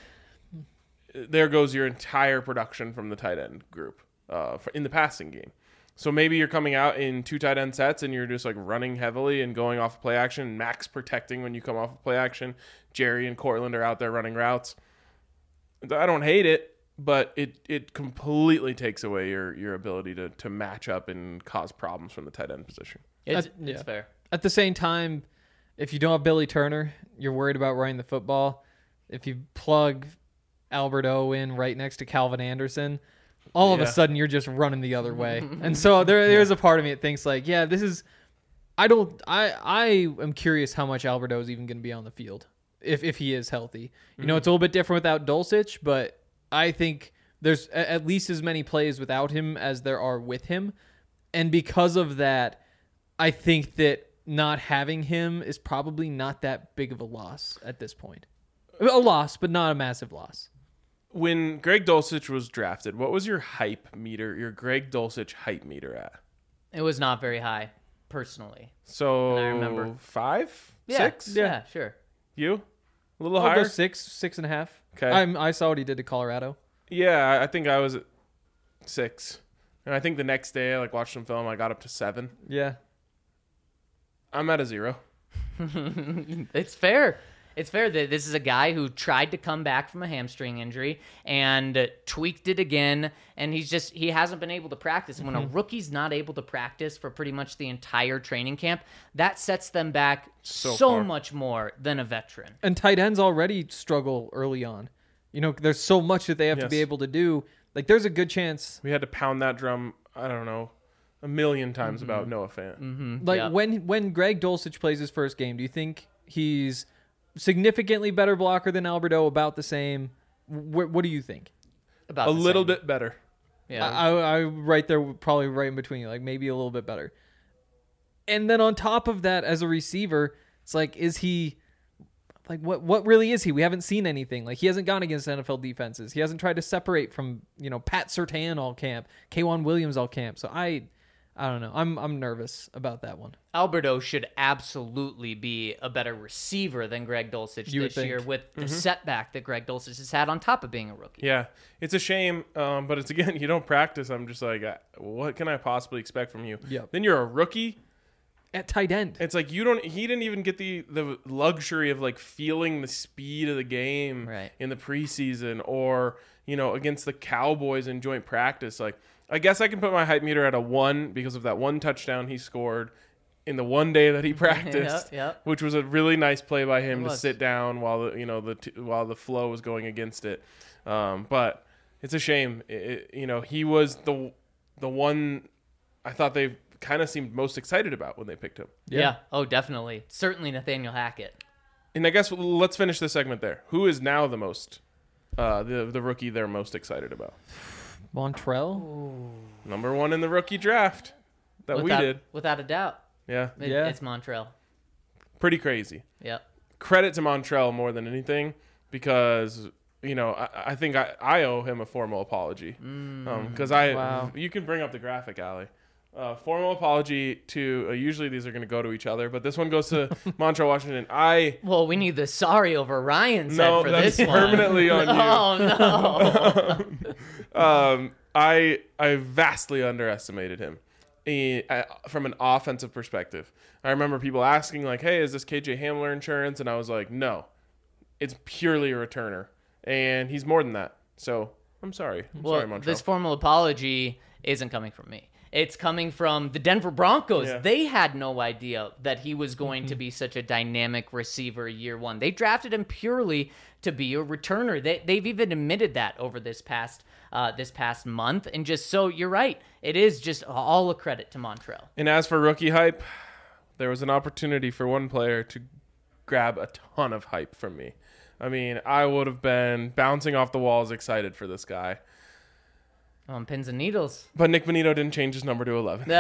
there goes your entire production from the tight end group in the passing game. So maybe you're coming out in 2 tight end sets and you're just like running heavily and going off of play action, max protecting when you come off of play action. Jerry and Cortland are out there running routes. I don't hate it, but it completely takes away your ability to match up and cause problems from the tight end position. It's fair. At the same time, if you don't have Billy Turner, you're worried about running the football. If you plug Alberto in right next to Calvin Anderson, all of a sudden you're just running the other way. And so there's a part of me that thinks like, yeah, this is I am curious how much Alberto is even going to be on the field if he is healthy. You know, it's a little bit different without Dulcich, but I think there's at least as many plays without him as there are with him. And because of that, I think that not having him is probably not that big of a loss at this point. A loss, but not a massive loss. When Greg Dulcich was drafted, what was your hype meter, your Greg Dulcich hype meter at? It was not very high, personally. So And I remember 5? Yeah, 6? Yeah, sure. You? A little I'll higher? go 6.5. Okay. I saw what he did to Colorado. Yeah, I think I was at 6. And I think the next day I watched some film, I got up to 7. Yeah. I'm at a 0. It's fair. It's fair that this is a guy who tried to come back from a hamstring injury and tweaked it again, and he hasn't been able to practice. And when a rookie's not able to practice for pretty much the entire training camp, that sets them back so much more than a veteran. And tight ends already struggle early on. You know, there's so much that they have to be able to do. Like, there's a good chance. We had to pound that drum, I don't know, a million times about Noah Fant. Like, when Greg Dulcich plays his first game, do you think he's significantly better blocker than Alberto, about the same? What do you think? About a the little same. bit better. Yeah. I right there, probably right in between you, like maybe a little bit better. And then on top of that, as a receiver, it's like, is he like what really is he? We haven't seen anything. Like, he hasn't gone against NFL defenses. He hasn't tried to separate from, Pat Surtain all camp, K'Wan Williams all camp. So I don't know. I'm nervous about that one. Alberto should absolutely be a better receiver than Greg Dulcich this year with the setback that Greg Dulcich has had on top of being a rookie. Yeah, it's a shame, but it's, again, you don't practice. I'm just like, what can I possibly expect from you? Yep. Then you're a rookie. At tight end. It's like he didn't even get the luxury of feeling the speed of the game in the preseason or, against the Cowboys in joint practice. Like, I guess I can put my hype meter at a 1 because of that one touchdown he scored in the one day that he practiced, Yep. which was a really nice play by him It to was. sit down while while the flow was going against it. But it's a shame. He was the one I thought they kind of seemed most excited about when they picked him. Yeah. Oh, definitely. Certainly Nathaniel Hackett. And I guess let's finish this segment there. Who is now the most the rookie they're most excited about? Montrell? Number one in the rookie draft that we did. Without a doubt. Yeah. It's Montrell. Pretty crazy. Yep. Credit to Montrell more than anything because, I think I owe him a formal apology. Because Wow. you can bring up the graphic, Allie. Formal apology to, usually these are going to go to each other, but this one goes to Montrell Washington. Well, we need the sorry over Ryan's head for that's this one. permanently on you. Oh, no. I vastly underestimated him from an offensive perspective. I remember people asking like, "Hey, is this KJ Hamler insurance?" And I was like, "No, it's purely a returner, and he's more than that." So I'm sorry. Sorry, Montrell. This formal apology isn't coming from me. It's coming from the Denver Broncos. Yeah. They had no idea that he was going to be such a dynamic receiver year one. They drafted him purely to be a returner. They've even admitted that over this past month. And just so you're right, it is just all a credit to Montrell. And as for rookie hype, there was an opportunity for one player to grab a ton of hype from me. I mean, I would have been bouncing off the walls excited for this guy. On pins and needles. But Nick Bonito didn't change his number to 11.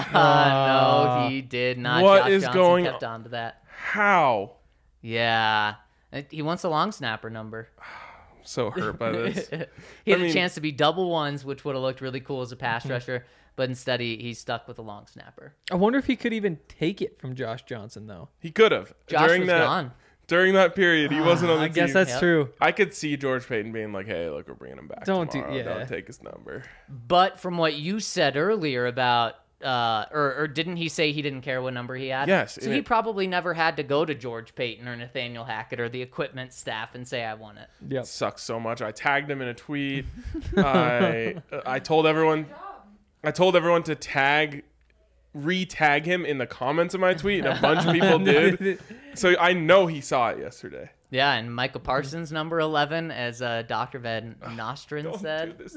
No, he did not. What Josh is Johnson going kept on to that. How? Yeah. He wants a long snapper number. I'm so hurt by this. He had I a mean- chance to be double ones, which would have looked really cool as a pass rusher, but instead he's stuck with a long snapper. I wonder if he could even take it from Josh Johnson, though. He could have. Josh was gone. During that period, he wasn't on the I guess team. that's Yep. true. I could see George Payton being like, "Hey, look, we're bringing him back. Don't Don't take his number." But from what you said earlier about, or didn't he say he didn't care what number he had? Yes, So he probably never had to go to George Payton or Nathaniel Hackett or the equipment staff and say, "I want it." Yep. Sucks so much. I tagged him in a tweet. I told everyone to re-tag him in the comments of my tweet, and a bunch of people did. So I know he saw it yesterday. Yeah, and Micah Parsons, number 11, as Dr. Van Nostrand Don't said. do this.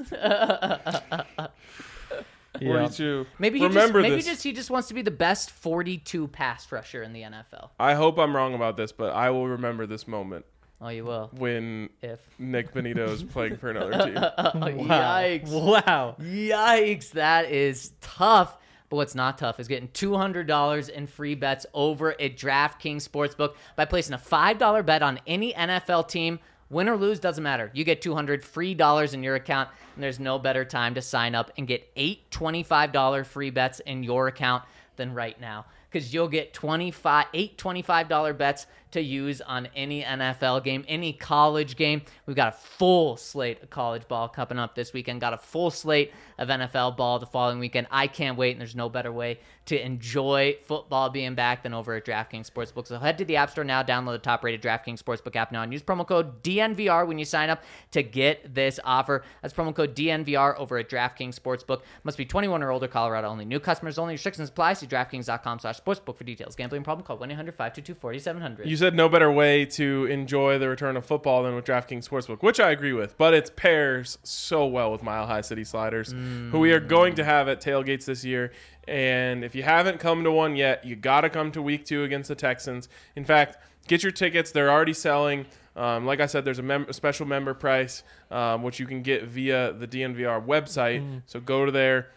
Yeah. 42. Maybe Remember he this. just wants to be the best 42 pass rusher in the NFL. I hope I'm wrong about this, but I will remember this moment Oh, you will. when If. Nick Bonito is playing for another team. Yikes. Wow. Yikes. That is tough. But what's not tough is getting $200 in free bets over at DraftKings Sportsbook by placing a $5 bet on any NFL team. Win or lose, doesn't matter. You get $200 free in your account, and there's no better time to sign up and get 8 $25 free bets in your account than right now. Because you'll get 8 $25 bets to use on any NFL game, any college game. We've got a full slate of college ball coming up this weekend. Got a full slate of NFL ball the following weekend. I can't wait, and there's no better way to enjoy football being back than over at DraftKings Sportsbook. So head to the App Store now, download the top-rated DraftKings Sportsbook app now, and use promo code DNVR when you sign up to get this offer. That's promo code DNVR over at DraftKings Sportsbook. Must be 21 or older, Colorado only. New customers only. Restrictions apply. See DraftKings.com/sportsbook for details. Gambling problem? Call 1-800-522-4700. You said no better way to enjoy the return of football than with DraftKings Sportsbook, which I agree with, but it pairs so well with Mile High City Sliders, who we are going to have at tailgates this year. And if you haven't come to one yet, you got to come to week 2 against the Texans. In fact, get your tickets. They're already selling. Like I said, there's a special member price, which you can get via the DNVR website. So go to there.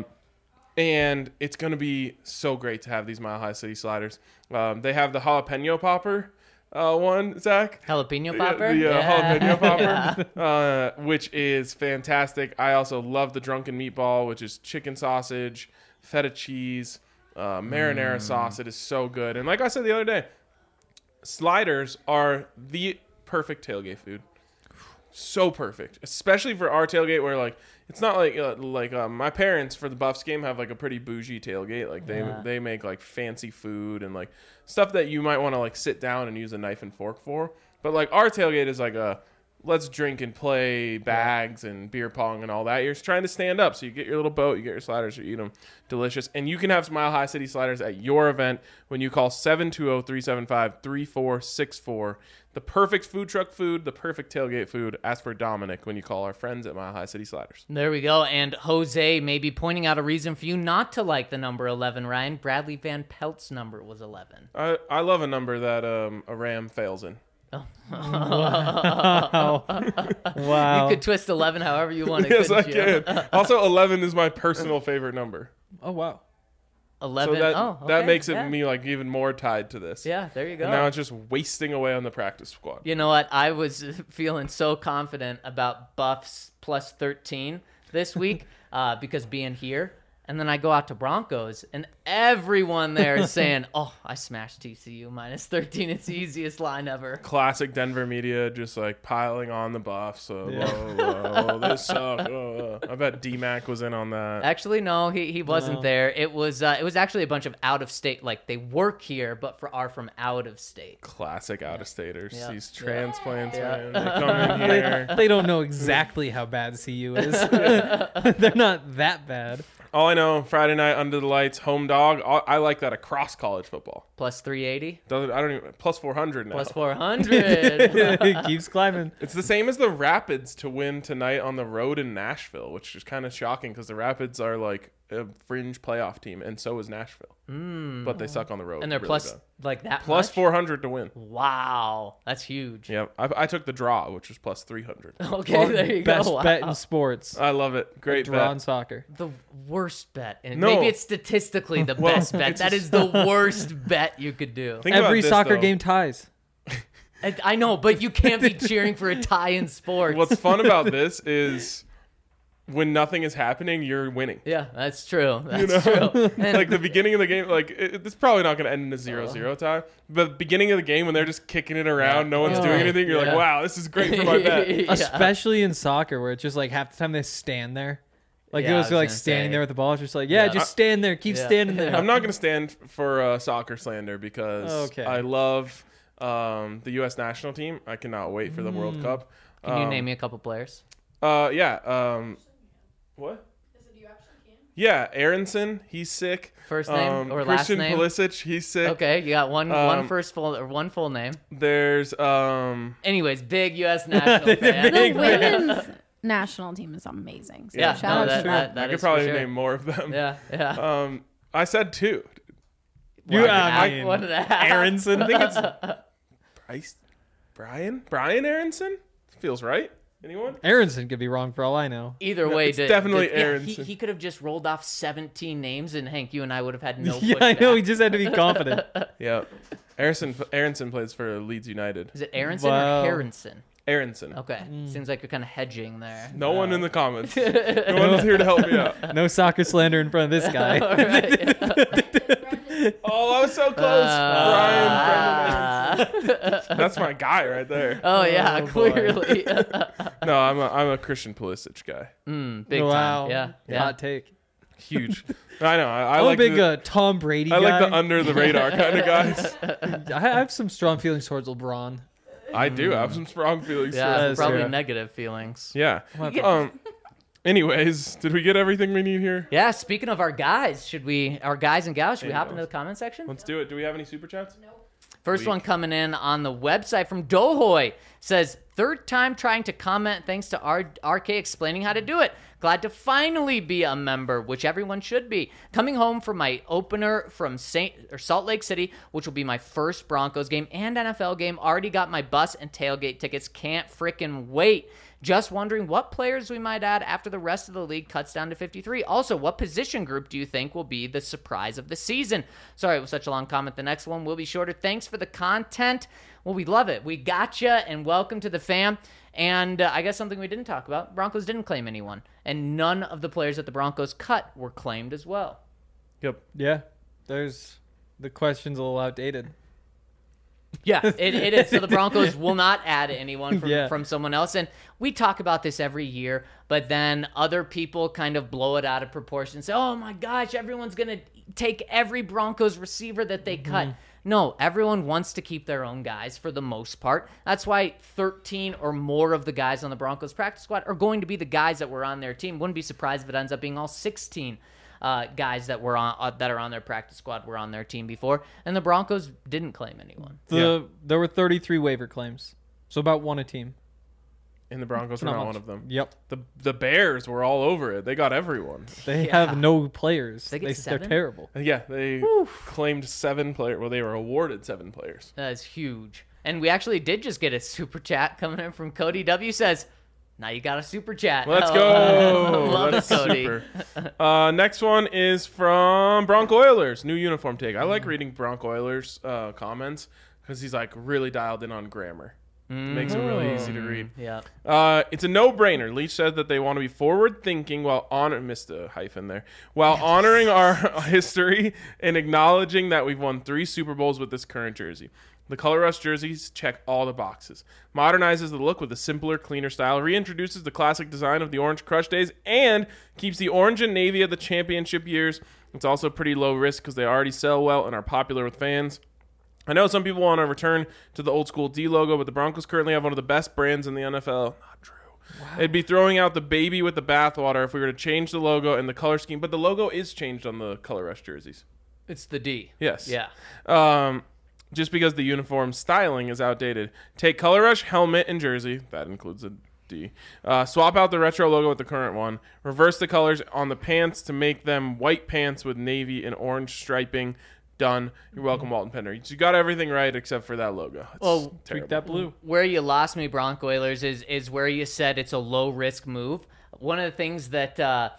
And it's going to be so great to have these Mile High City Sliders. They have the jalapeno popper one, Zach. Jalapeno popper? The jalapeno popper, which is fantastic. I also love the drunken meatball, which is chicken sausage, feta cheese, marinara sauce. It is so good. And like I said the other day, sliders are the perfect tailgate food. So perfect, especially for our tailgate where like it's not like my parents for the Buffs game have like a pretty bougie tailgate. Like they make like fancy food and like stuff that you might want to like sit down and use a knife and fork for. But like our tailgate is like let's drink and play bags and beer pong and all that. You're just trying to stand up. So you get your little boat, you get your sliders, you eat them. Delicious. And you can have Mile High City sliders at your event when you call 720-375-3464. The perfect food truck food, the perfect tailgate food. Ask for Dominic when you call our friends at Mile High City Sliders. There we go. And Jose may be pointing out a reason for you not to like the number 11, Ryan. Bradley Van Pelt's number was 11. I love a number that a Ram fails in. Wow. You could twist 11 however you want. Yes, I couldn't you? can. Also, 11 is my personal favorite number. Oh, wow. 11. So that okay. that makes it yeah. me like even more tied to this. Yeah, there you go. And now it's just wasting away on the practice squad. You know what? I was feeling so confident about Buffs plus 13 this week because being here. And then I go out to Broncos, and everyone there is saying, oh, I smashed TCU minus 13. It's the easiest line ever. Classic Denver media just like piling on the Buffs. So, this sucks. I bet D-Mac was in on that. Actually, no, he wasn't there. It was actually a bunch of out-of-state, like they work here, but are from out of state. Classic out-of-staters. Yeah. These transplants, Yeah. man. They come in here. They don't know exactly how bad CU is. They're not that bad. All I know, Friday night under the lights, home dog. I like that across college football. Plus 380? I don't even plus 400 now. Plus 400. It keeps climbing. It's the same as the Rapids to win tonight on the road in Nashville, which is kind of shocking because the Rapids are like a fringe playoff team, and so is Nashville. But they suck on the road. And they're really plus bad. like that Plus much? 400 to win. Wow. That's huge. Yep. I took the draw, which was plus 300. Okay, there you Best go. Wow. bet in sports. I love it. Great Draw in bet. soccer. The worst bet. And No. maybe it's statistically the best bet. That is the worst bet you could do. Think about Every this, soccer though. game ties. I know, but you can't be cheering for a tie in sports. What's fun about this is when nothing is happening, you're winning. Yeah, that's true. That's You know? true. And Like the beginning of the game, like it's probably not going to end in a 0-0 tie. But the beginning of the game when they're just kicking it around, no one's doing anything, you're Yeah. like, wow, this is great for my bet. Yeah. Especially in soccer where it's just like half the time they stand there. Like Yeah, I it was was like gonna standing say. there with the ball. It's just like, yeah, Yeah. just stand there. Keep Yeah. standing there. I'm not going to stand for soccer slander because Okay. I love the U.S. national team. I cannot wait for the World Cup. Can you name me a couple players? Yeah. What? Yeah, Aronson, he's sick. First name or last Christian name? Pulisic, he's sick. Okay, you got one first full or one full name. There's Anyways, big U.S. national fan. The women's national team is amazing. So Yeah, shout no, out to them. that I could is probably for sure. name more of them. Yeah. I said two. You, I I mean, one and a half. Aronson. I think it's Brian Aronson? Feels right. Anyone? Aronson could be wrong for all I know. Either way, it's definitely yeah, Aronson. he could have just rolled off 17 names, and Hank, you and I would have had no. Yeah, I pushback. know. He just had to be confident. Yeah. Aronson plays for Leeds United. Is it Aronson Wow. or Harrison? Aronson. Okay, seems like you're kind of hedging there. No one in the comments. No one's here to help me out. No soccer slander in front of this guy. All right. Oh, I was so close. Brian Aronson. That's my guy right there. Oh yeah, Oh, boy. clearly. No, I'm a Christian Pulisic guy. Big Wow. time. Yeah. Hot take. Huge. I know. I I'm like a big the, Tom Brady I guy. like the under the radar kind of guys. I have some strong feelings towards LeBron. I do. I have some strong feelings. Yeah, That's probably true. negative feelings. Yeah. Yeah. Anyways, did we get everything we need here? Yeah, speaking of our guys and gals, should we hop into the comment section? Let's do it. Do we have any super chats? First one coming in on the website from Dohoy says, third time trying to comment thanks to RK explaining how to do it. Glad to finally be a member, which everyone should be. Coming home from my opener from Salt Lake City, which will be my first Broncos game and NFL game. Already got my bus and tailgate tickets. Can't frickin' wait. Just wondering what players we might add after the rest of the league cuts down to 53. Also, what position group do you think will be the surprise of the season? Sorry, it was such a long comment. The next one will be shorter. Thanks for the content. Well, we love it. We gotcha, and welcome to the fam. And I guess something we didn't talk about, Broncos didn't claim anyone. And none of the players that the Broncos cut were claimed as well. Yep. Yeah. There's the question's a little outdated. Yeah, it is. So the Broncos will not add anyone Yeah. from someone else. And we talk about this every year, but then other people kind of blow it out of proportion and say, oh my gosh, everyone's going to take every Broncos receiver that they cut. No, everyone wants to keep their own guys for the most part. That's why 13 or more of the guys on the Broncos practice squad are going to be the guys that were on their team. Wouldn't be surprised if it ends up being all 16 guys that were on that are on their practice squad were on their team before, and the Broncos didn't claim anyone. There were 33 waiver claims, so about one a team. And the Broncos were not one of them. Yep. The Bears were all over it. They got everyone. They have no players. They're terrible. Yeah, they claimed 7 players. Well, they were awarded 7 players. That's huge. And we actually did just get a super chat coming in from Cody W. Says, now you got a super chat. Let's go. Love That's it, Cody. Super. Next one is from Bronco Oilers. New uniform take. I like reading Bronco Oilers comments because he's like really dialed in on grammar. Makes it really easy to read. Yeah. It's a no-brainer. Leach said that they want to be forward-thinking while missed a hyphen there, while honoring our history and acknowledging that we've won 3 Super Bowls with this current jersey. The Color Rush jerseys check all the boxes. Modernizes the look with a simpler, cleaner style, reintroduces the classic design of the Orange Crush days, and keeps the orange and navy of the championship years. It's also pretty low risk because they already sell well and are popular with fans. I know some people want to return to the old school D logo, but the Broncos currently have one of the best brands in the NFL. Not true. Wow. It'd be throwing out the baby with the bathwater if we were to change the logo and the color scheme, but the logo is changed on the Color Rush jerseys. It's the D. Yes. Yeah. Just because the uniform styling is outdated. Take Color Rush helmet and jersey. That includes a D. Swap out the retro logo with the current one. Reverse the colors on the pants to make them white pants with navy and orange striping. Done. You're welcome, Walton Penner. You got everything right except for that logo. It's tweak that blue. Where you lost me, Bronco Oilers, is where you said it's a low risk move. One of the things that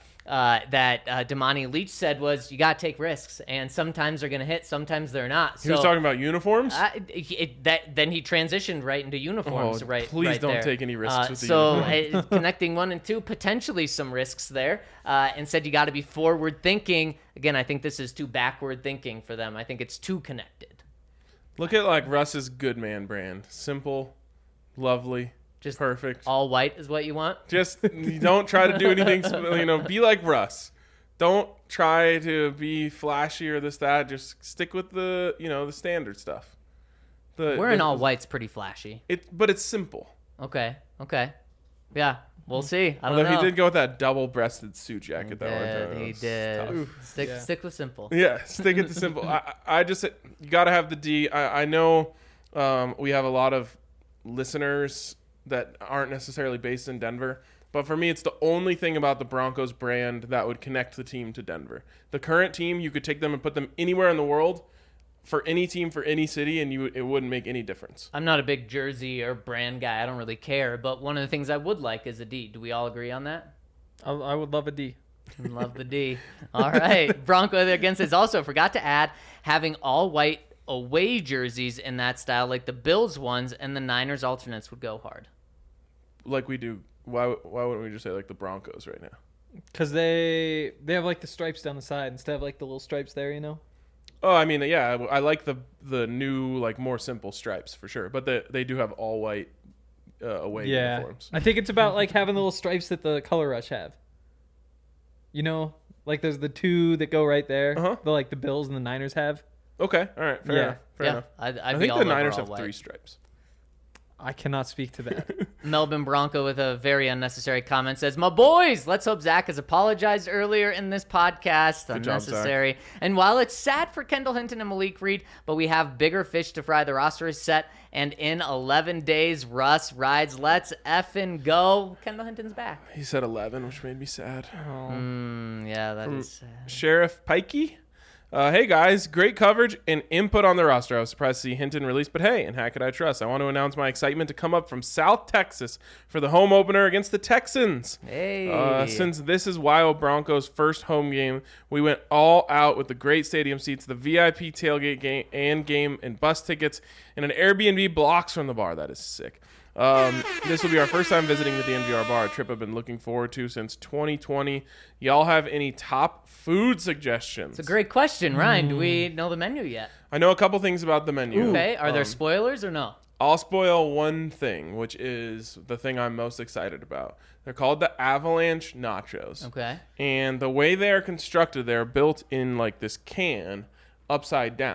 Damani Leach said was you got to take risks, and sometimes they're going to hit, sometimes they're not. He was talking about uniforms? Then he transitioned right into uniforms. Please don't there. take any risks with the uniform. Connecting 1 and 2, potentially some risks there, and said you got to be forward thinking. Again, I think this is too backward thinking for them. I think it's too connected. Look at like Russ's Good Man brand. Simple, lovely. Just perfect. All white is what you want? Just you don't try to do anything, be like Russ. Don't try to be flashy or this, that. Just stick with the standard stuff. Wearing all white's pretty flashy. But it's simple. Okay. Yeah, we'll see. I don't know. He did go with that double-breasted suit jacket that one time. He did. Stick with simple. Yeah, stick it to simple. I just you got to have the D. I know we have a lot of listeners that aren't necessarily based in Denver. But for me, it's the only thing about the Broncos brand that would connect the team to Denver. The current team, you could take them and put them anywhere in the world, for any team, for any city, and it wouldn't make any difference. I'm not a big jersey or brand guy. I don't really care. But one of the things I would like is a D. Do we all agree on that? I would love a D. Love the D. All right. Bronco against this also forgot to add having all white away jerseys in that style, like the Bills ones, and the Niners alternates would go hard. Like we do. Why wouldn't we just say like the Broncos right now? Because they have like the stripes down the side instead of like the little stripes there, Oh, I mean, yeah, I like the new like more simple stripes for sure, but they do have all white away uniforms. I think it's about like having the little stripes that the Color Rush have. Like there's the 2 that go right there. The Bills and the Niners have. Okay, all right, fair enough. I think the Niners have 3 stripes. I cannot speak to that. Melbourne Bronco with a very unnecessary comment says, "My boys, let's hope Zach has apologized earlier in this podcast. Good Unnecessary. Job, Zach. And while it's sad for Kendall Hinton and Malik Reed, but we have bigger fish to fry. The roster is set, and in 11 days, Russ rides. Let's effing go. Kendall Hinton's back." He said 11, which made me sad. Yeah, that is sad. Sheriff Pikey. Hey guys, great coverage and input on the roster. I was surprised to see Hinton released, but hey, and how could I trust? I want to announce my excitement to come up from South Texas for the home opener against the Texans. Hey. Since this is Wild Broncos' first home game, we went all out with the great stadium seats, the VIP tailgate game and bus tickets, and an Airbnb blocks from the bar. That is sick. This will be our first time visiting the DNVR bar, a trip I've been looking forward to since 2020. Y'all have any top food suggestions? It's a great question, Ryan. Do we know the menu yet? I know a couple things about the menu. Okay, are there spoilers or no? I'll spoil one thing, which is the thing I'm most excited about. They're called the Avalanche Nachos. Okay. And the way they are constructed, they're built in like this can upside down.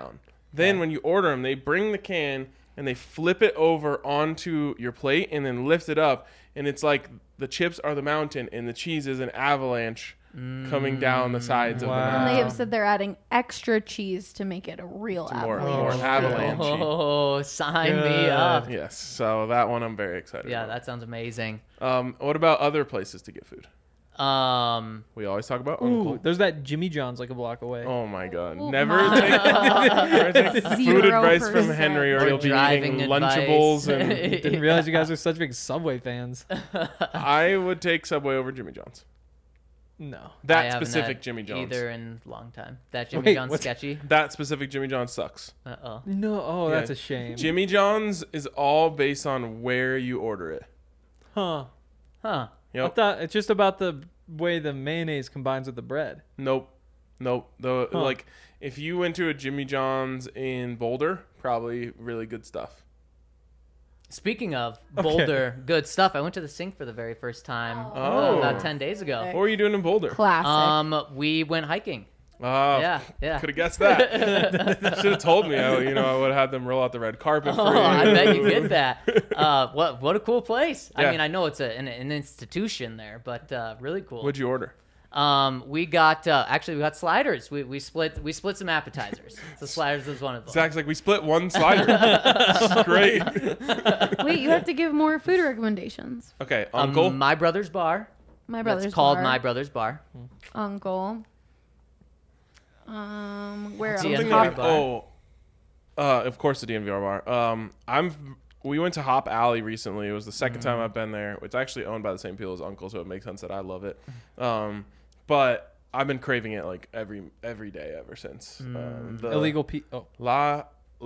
Then when you order them, they bring the can and they flip it over onto your plate and then lift it up. And it's like the chips are the mountain and the cheese is an avalanche coming down the sides of the mountain. And they have said they're adding extra cheese to make it a real More avalanche. avalanche. Oh, sign me up. Yes, so that one I'm very excited Yeah, about. that sounds amazing. What about other places to get food? We always talk about Uncle. Ooh, there's that Jimmy John's like a block away. Oh my God! Ooh, Never my. take food advice from 0%. Henry, or Or you'll be driving eating advice. Lunchables. And Didn't realize you guys are such big Subway fans. I would take Subway over Jimmy John's. No. I That haven't specific had Jimmy John's. either in a long time. That Jimmy Wait, John's what's- sketchy. That specific Jimmy John's sucks. Uh-oh. No. Oh, Yeah. that's a shame. Jimmy John's is all based on where you order it. Huh. Huh. I Yep. thought it's just about the way the mayonnaise combines with the bread. Nope. Like if you went to a Jimmy John's in Boulder, probably really good stuff. Speaking of Boulder, good stuff. I went to the Sink for the very first time Oh. about 10 days ago. What were you doing in Boulder? Classic. We went hiking. Yeah. Could have guessed that. Should have told me. I would have had them roll out the red carpet for Oh, you. I bet you get that. What a cool place. Yeah. I mean, I know it's an institution there, but really cool. What'd you order? We got sliders. We split some appetizers. So sliders was one of them. Zach's like, we split one slider. Great. Wait, you have to give more food recommendations. Okay, Uncle. My Brother's Bar. My brother's That's called bar. My Brother's Bar. Uncle. Where What's else? the Something DNVR that bar? of course the DNVR bar. We went to Hop Alley recently. It was the second time I've been there. It's actually owned by the same people as Uncle, so it makes sense that I love it. But I've been craving it like every day ever since. The Illegal La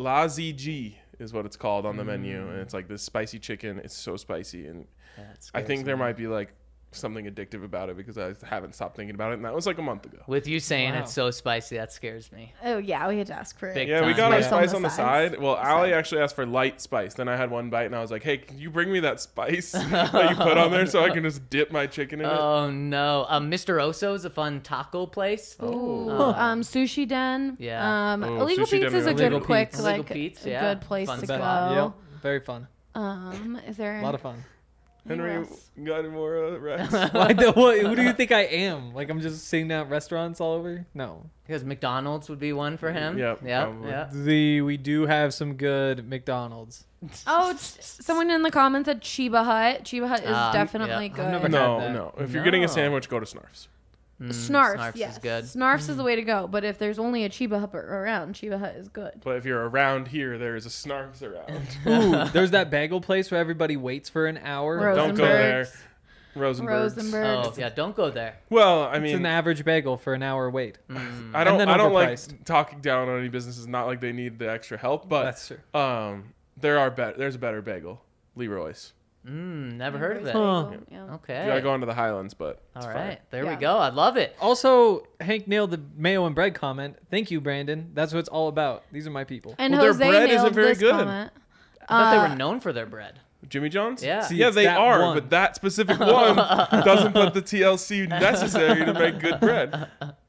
ZG is what it's called on the menu, and it's like this spicy chicken. It's so spicy, and That I scares think there me. might be like something addictive about it because I haven't stopped thinking about it, and that was like a month ago. With you saying Wow. it's so spicy, that scares me. Oh yeah, we had to ask for it. Big Yeah, we time. got our Yeah. spice on the side. Well, The Allie side. actually asked for light spice. Then I had one bite, and I was like, "Hey, can you bring me that spice that you put on there so I can just dip my chicken in it?" Oh no, Mr. Oso is a fun taco place. Ooh, Oh. Sushi Den. Yeah. Illegal Sushi Den Pete's is a is good, Illegal quick, Pete's. Illegal like, Pete's, a yeah. good place Fun to spot. go. Yep. Very fun. Is there A lot of fun. Henry, Yes. got any more Rex? Who do you think I am? Like I'm just sitting down at restaurants all over? No. Because McDonald's would be one for him. Yep, Yeah. probably. Yeah. We do have some good McDonald's. Oh, someone in the comments said Chiba Hut. Chiba Hut is definitely yeah. good. I've never No, had that. no. If you're getting a No. sandwich, go to Snarf's. Snarf's, yes. is good. Snarf's is the way to go. But if there's only a Chiba Hut around, Chiba Hut is good. But if you're around here, there is a Snarf's around. Ooh, there's that bagel place where everybody waits for an hour. Don't go there. Rosenberg's. Rosenberg's. Oh yeah, don't go there. Well, I It's mean, an average bagel for an hour wait. I don't then like overpriced. talking down on any businesses. Not like they need the extra help, but That's true. there's a better bagel, Leroy's. Never heard of it. Huh. Yeah. Okay. You gotta go into the Highlands, but it's All fine. right, there we Yeah. go. I love it. Also, Hank nailed the mayo and bread comment. Thank you, Brandon. That's what it's all about. These are my people. And Well, their Jose bread nailed isn't very this good. comment. I thought they were known for their bread. Jimmy John's? Yeah. See, Yeah, it's they that are, one. but that specific one doesn't put the TLC necessary to make good bread.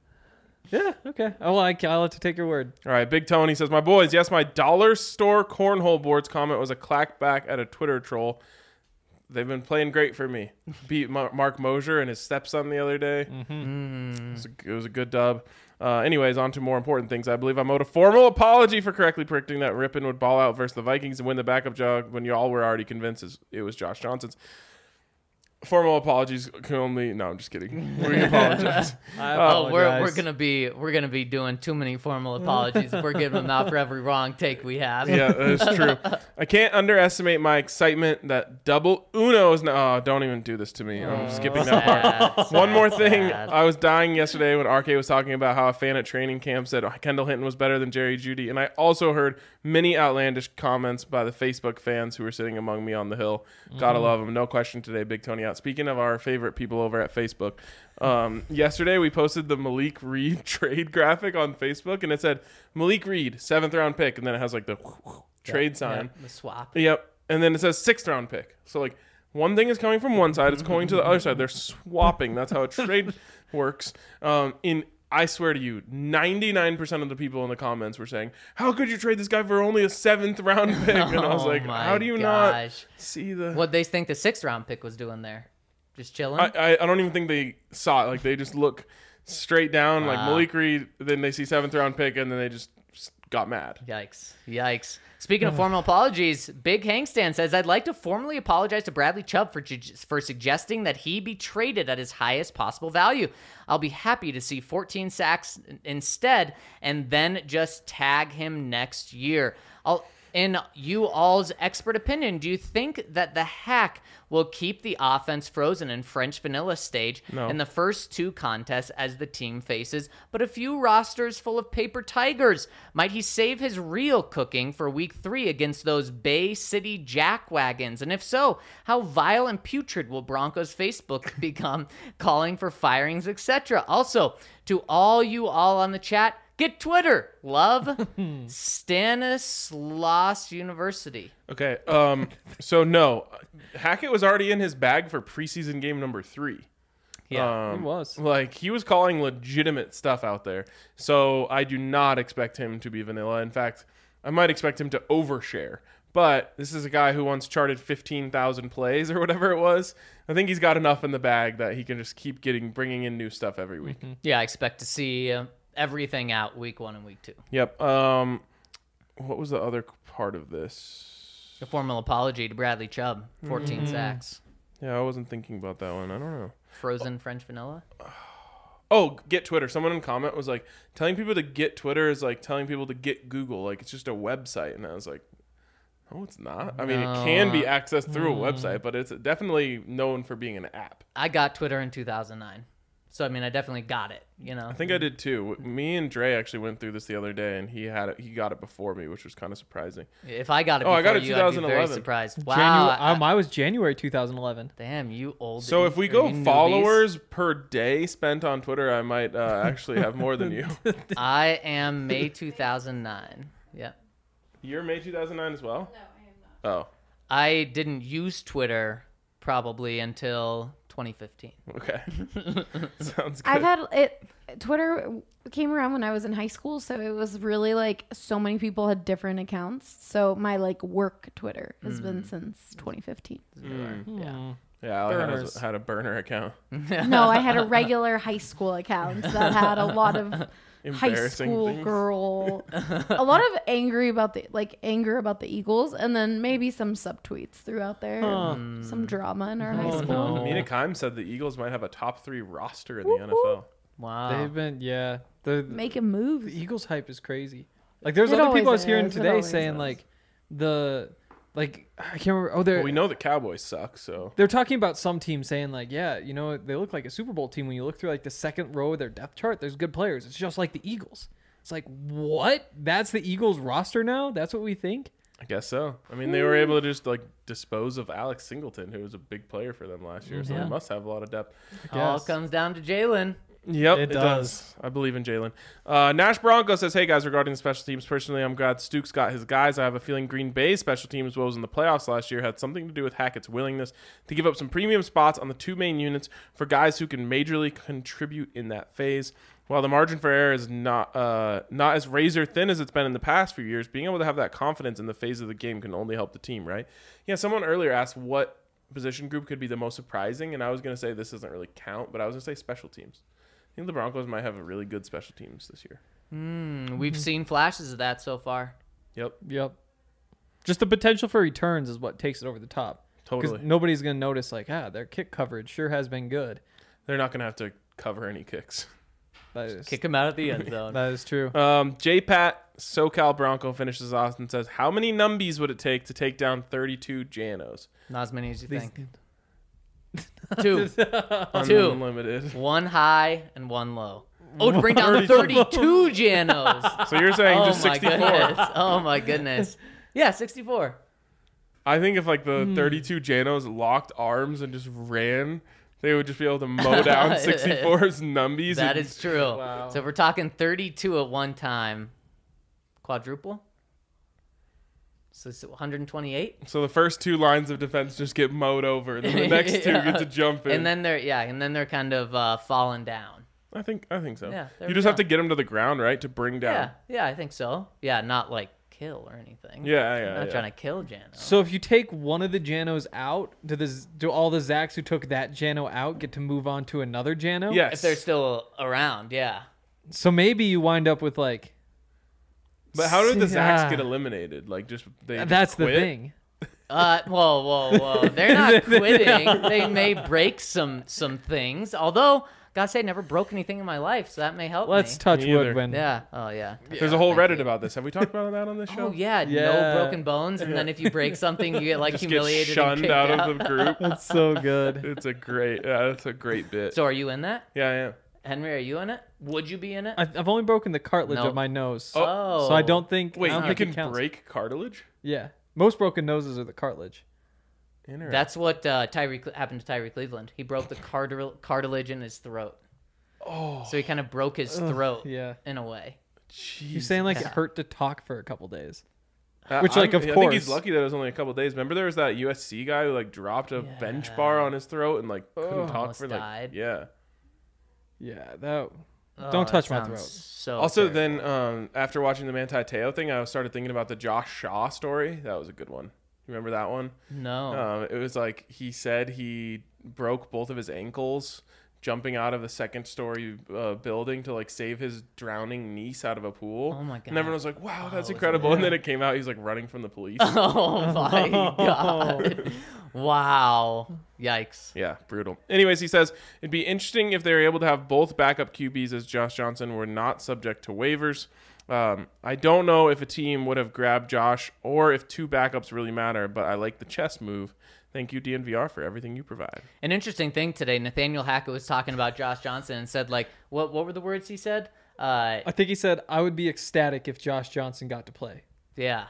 Yeah, okay. I'll have to take your word. All right, Big Tony says, "My boys, yes, my dollar store cornhole boards comment was a clackback at a Twitter troll. They've been playing great for me. Beat Mark Mosier and his stepson the other day. It was a good dub. Anyways, on to more important things. I believe I'm owed a formal apology for correctly predicting that Rippon would ball out versus the Vikings and win the backup job when you all were already convinced it was Josh Johnson's. Formal apologies can only... No, I'm just kidding. We apologize. I Oh, we're apologize. gonna be doing too many formal apologies if we're giving them out for every wrong take we have. Yeah, that's true. I can't underestimate my excitement that double Uno is now... Oh, don't even do this to me. I'm skipping that part. Sad, One more sad, thing. sad. I was dying yesterday when RK was talking about how a fan at training camp said Kendall Hinton was better than Jerry Jeudy. And I also heard many outlandish comments by the Facebook fans who were sitting among me on the hill. Gotta love them. No question today, Big Tony out. Speaking of our favorite people over at Facebook, yesterday we posted the Malik Reed trade graphic on Facebook, and it said Malik Reed, 7th round pick, and then it has like the trade sign. The swap. Yep. And then it says 6th round pick. So like one thing is coming from one side, it's going to the other side. They're swapping. That's how a trade works. I swear to you, 99% of the people in the comments were saying, how could you trade this guy for only a 7th round pick? And I was like, how do you not see the... What they think the 6th round pick was doing there? Just chilling? I don't even think they saw it. Like, they just look straight down, like Malik Reed, then they see 7th round pick, and then they just got mad. Yikes. Speaking of formal apologies, Big Hangstan says, I'd like to formally apologize to Bradley Chubb for suggesting that he be traded at his highest possible value. I'll be happy to see 14 sacks instead and then just tag him next year. In you all's expert opinion, do you think that the hack will keep the offense frozen in French vanilla stage in the first 2 contests as the team faces, but a few rosters full of paper tigers? Might he save his real cooking for week 3 against those Bay City jackwagons? And if so, how vile and putrid will Broncos Facebook become, calling for firings, etc.? Also, to all on the chat, get Twitter. Love, Stanislaus University. Okay, so no, Hackett was already in his bag for preseason game number 3. Yeah, he was. Like, he was calling legitimate stuff out there. So I do not expect him to be vanilla. In fact, I might expect him to overshare. But this is a guy who once charted 15,000 plays or whatever it was. I think he's got enough in the bag that he can just keep bringing in new stuff every week. Mm-hmm. Yeah, I expect to see everything out week 1 and week 2. Yep. What was the other part of this? A formal apology to Bradley Chubb, 14 sacks. Yeah, I wasn't thinking about that one. I don't know. Frozen French vanilla? Oh, get Twitter. Someone in comment was like, telling people to get Twitter is like telling people to get Google. Like, it's just a website. And I was like, no, it's not. I mean, it can be accessed through a website, but it's definitely known for being an app. I got Twitter in 2009. So, I mean, I definitely got it, you know? I think I did too. Me and Dre actually went through this the other day, and he got it before me, which was kind of surprising. If I got it before I got it you, I'd be very 2011. surprised. Wow. I was January 2011. Damn, you old. So if we go followers per day spent on Twitter, I might actually have more than you. I am May 2009. Yeah. You're May 2009 as well? No, I am not. Oh, I didn't use Twitter probably until 2015. okay. Sounds good. I've had it. Twitter came around when I was in high school, so it was really like so many people had different accounts. So my like work Twitter has been since 2015. Yeah. Yeah, I had a burner account. No, I had a regular high school account that had a lot of high Embarrassing school things. girl, a lot of anger about the Eagles, and then maybe some subtweets throughout there, some drama in our high school. no. Mina Kimes said the Eagles might have a top 3 roster in the NFL. Wow. They've been, Making moves. the Eagles hype is crazy. Like, there's It other people I was always hearing is. It today always saying, is. I can't remember. Oh, Well, we know the Cowboys suck, so they're talking about some teams saying, like, yeah, you know, they look like a Super Bowl team. When you look through, like, the second row of their depth chart, there's good players. It's just like the Eagles. It's like, what? That's the Eagles roster now? That's what we think? I guess so. I mean, they were able to just like dispose of Alex Singleton, who was a big player for them last year, so Yeah. they must have a lot of depth. All Yes. comes down to Jalen. Yep, It does. I believe in Jalen. Nash Bronco says, hey guys, regarding the special teams, personally, I'm glad Stooks got his guys. I have a feeling Green Bay's special teams woes in the playoffs last year had something to do with Hackett's willingness to give up some premium spots on the 2 main units for guys who can majorly contribute in that phase. While the margin for error is not as razor thin as it's been in the past few years, being able to have that confidence in the phase of the game can only help the team, right? Yeah, someone earlier asked what position group could be the most surprising, and I was going to say this doesn't really count, but I was going to say special teams. I think the Broncos might have a really good special teams this year. We've seen flashes of that so far. Yep, Just the potential for returns is what takes it over the top. totally. Because nobody's going to notice, like, their kick coverage sure has been good. They're not going to have to cover any kicks. That is, Kick him out of the end zone. that is true. J-Pat, SoCal Bronco finishes off and says, how many numbies would it take to take down 32 Janos? Not as many as you These- think. Two. Unlimited. 1 high and 1 low. Oh, to bring down the 32 Janos. So you're saying Oh just my 64. goodness. Oh my goodness. Yeah, 64. I think if like the 32 Janos locked arms and just ran, they would just be able to mow down 64's numbies. That and- is true. Wow. So if we're talking 32 at one time, quadruple? So it's 128? So the first 2 lines of defense just get mowed over, and then the next 2 Yeah. get to jump in. And then they're kind of falling down. I think so. Yeah, there you we just go. have to get him to the ground, right, to bring down. Yeah, I think so. Yeah, not like kill or anything. Yeah. Not trying to kill Jano. So if you take one of the Janos out, do all the Zacks who took that Jano out get to move on to another Jano? Yes. If they're still around, yeah. So maybe you wind up with like. But how did the Zacks Ah. get eliminated? Like just they. That's just the quit? thing. Whoa. They're not quitting. They may break some things. Although, gotta say, never broke anything in my life, so that may help Let's me. touch Me either. wood when. Yeah. Oh, yeah. There's a whole Thank Reddit you. about this. Have we talked about that on this show? Oh, yeah. Yeah. No broken bones. And then if you break something, you get, like, Just get humiliated and shunned kicked out out. of the group. That's so good. It's a great. Yeah, that's a great bit. So are you in that? Yeah, I am. Henry, are you in it? Would you be in it? I've only broken the cartilage Nope. of my nose. Oh. So I don't think. Wait, I don't you think it can counts. break cartilage? Yeah. Most broken noses are the cartilage. Interesting. That's what happened to Tyree Cleveland. He broke the cartilage in his throat. Oh, So he kind of broke his throat Yeah. in a way. You're saying like Yeah. it hurt to talk for a couple days. I Which, like, of think he's course. lucky that it was only a couple days. Remember, there was that USC guy who like dropped a bench bar on his throat and like couldn't talk Almost for like died. yeah. Yeah, that. Oh, Don't touch that my throat. sounds So Also, terrible. then after watching the Manti Te'o thing, I started thinking about the Josh Shaw story. That was a good one. You remember that one? No. It was like he said he broke both of his ankles jumping out of the second story building to like save his drowning niece out of a pool. Oh my God. And everyone was like, "Wow, that's it's incredible!" weird. And then it came out he's like running from the police. Oh my God. Wow. Yikes. Yeah, brutal. Anyways, he says it'd be interesting if they were able to have both backup QBs as Josh Johnson were not subject to waivers. I don't know if a team would have grabbed Josh or if two backups really matter, but I like the chess move. Thank you, DNVR, for everything you provide. An interesting thing today, Nathaniel Hackett was talking about Josh Johnson and said, like, what were the words he said? I think he said I would be ecstatic if Josh Johnson got to play. Yeah.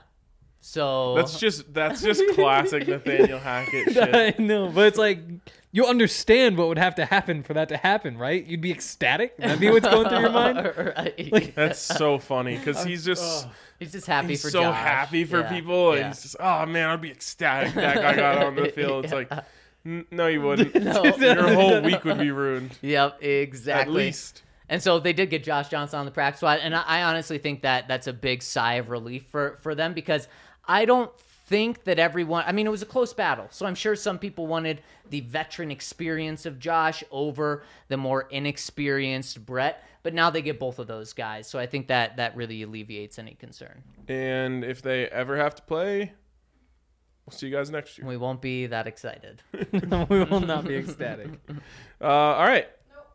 So That's just classic Nathaniel Hackett shit. I know, but it's like you understand what would have to happen for that to happen, right? You'd be ecstatic. That'd be what's going through your mind. right. That's so funny because he's just He's just happy he's for so Josh. happy for Yeah. people, and Yeah. he's just, oh man, I'd be ecstatic that guy got on the field. It's like, no, you wouldn't. No. Your whole week would be ruined. Yep, At exactly. least. And so they did get Josh Johnson on the practice squad, and I honestly think that that's a big sigh of relief for them because I don't think that everyone. I mean, it was a close battle, so I'm sure some people wanted the veteran experience of Josh over the more inexperienced Brett, but now they get both of those guys, so I think that really alleviates any concern. And if they ever have to play, we'll see you guys next year. We won't be that excited. We will not be ecstatic. All right.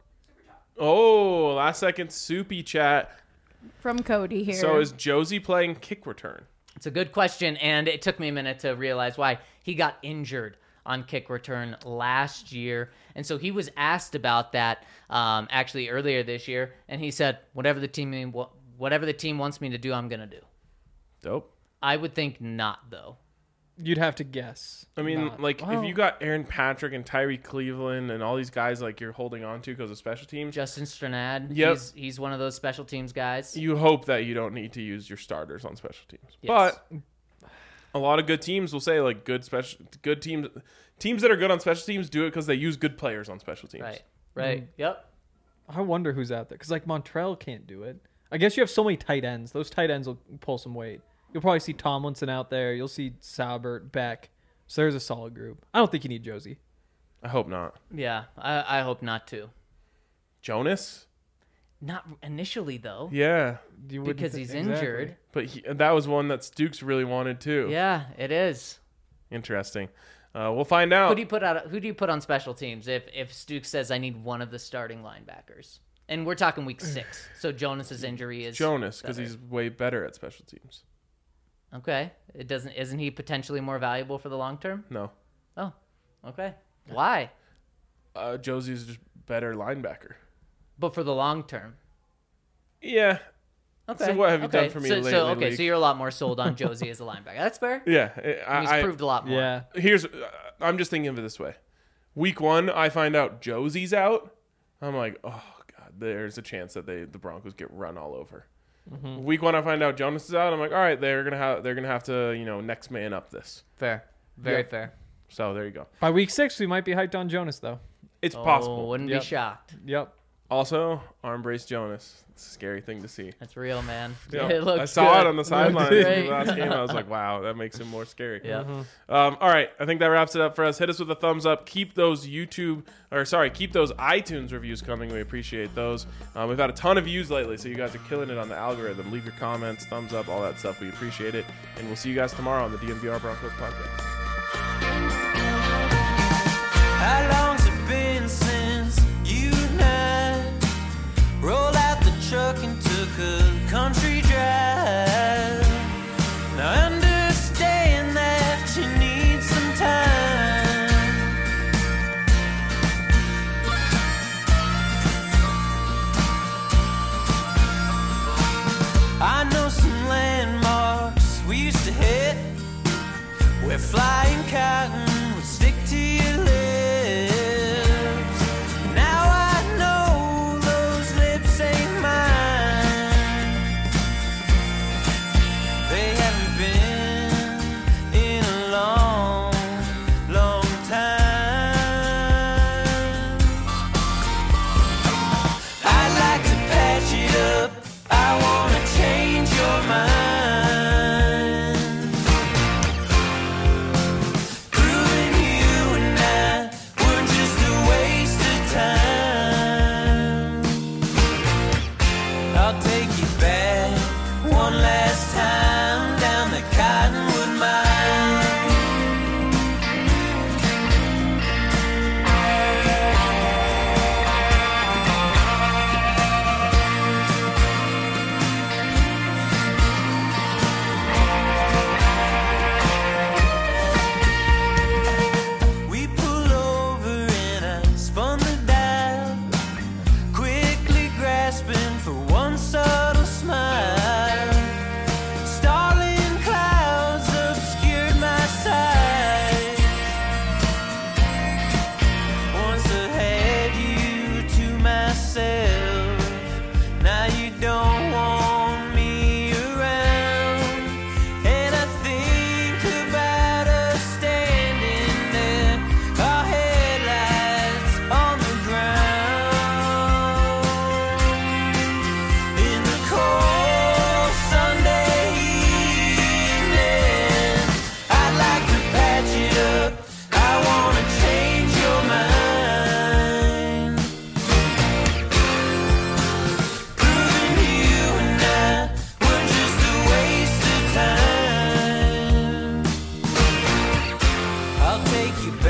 Oh, last second soupy chat. From Cody here. So is Josie playing kick return? It's a good question, and it took me a minute to realize why. He got injured on kick return last year, and so he was asked about that actually earlier this year, and he said, whatever the team wants me to do, I'm going to do. Dope. I would think not, though. You'd have to guess. I mean, Not. like, Well, if you got Aaron Patrick and Tyree Cleveland and all these guys, like, you're holding on to because of special teams, Justin Stranad, Yep. he's one of those special teams guys. you hope that you don't need to use your starters on special teams. Yes. But a lot of good teams will say, like, good teams that are good on special teams do it because they use good players on special teams. Right. Yep. I wonder who's out there because like Montrell can't do it. I guess you have so many tight ends. Those tight ends will pull some weight. You'll probably see Tomlinson out there. You'll see Saubert, Beck. So there's a solid group. I don't think you need Josie. I hope not. Yeah, I hope not too. Jonas? Not initially, though, Yeah. You wouldn't because thi- he's exactly. injured. But that was one that Stukes really wanted, too. Yeah, it is. Interesting. We'll find out. Who do you put on special teams if Stukes says I need one of the starting linebackers? And we're talking week 6, so Jonas's injury is Jonas, because better. he's way better at special teams. Okay. Isn't he potentially more valuable for the long term? No. Oh, okay. Why? Josie's just better linebacker. But for the long term. Yeah. Okay. So what have you done for me lately, So League? you're a lot more sold on Josie as a linebacker. That's fair. Yeah. He's proved a lot more. Yeah. Here's I'm just thinking of it this way. Week 1, I find out Josie's out. I'm like, oh god, there's a chance that the Broncos get run all over. Mm-hmm. Week 1, I find out Jonas is out. I'm like, all right, they're gonna have to next man up this. Fair. Very Yeah. fair. So there you go. By week 6, we might be hyped on Jonas though. It's Oh, possible. wouldn't Yep. be shocked. Yep. Also, arm brace Jonas. It's a scary thing to see. That's real, man. Yeah, It looks I saw good. it on the sidelines Looks in the great. last game. I was like, wow, that makes him more scary. Yeah. All right, I think that wraps it up for us. Hit us with a thumbs up. Keep those keep those iTunes reviews coming. We appreciate those. We've had a ton of views lately, so you guys are killing it on the algorithm. Leave your comments, thumbs up, all that stuff. We appreciate it, and we'll see you guys tomorrow on the DNVR Broncos podcast. How long's it been since you and I rolled out the truck and took a country drive? Now I understand that you need some time. I know some landmarks we used to hit where flying cotton would stick to your lips. Now I know those lips ain't mine. They haven't been in a long, long time. I'd like to patch it up. I wanna change your mind. Proving you and I were just a waste of time. I'll take you back one last time down the Cottonwood Mine. We pull over and I spun the dial, quickly grasping for one subtle smile. Starling clouds obscured my sight. Once I had you to myself, now you don't want me around. And I think about us standing there, our headlights on the ground. In the cold Sunday evening, I'd like to patch it up. I wanna change your mind. Proving you and I were just a waste of time. I'll take you back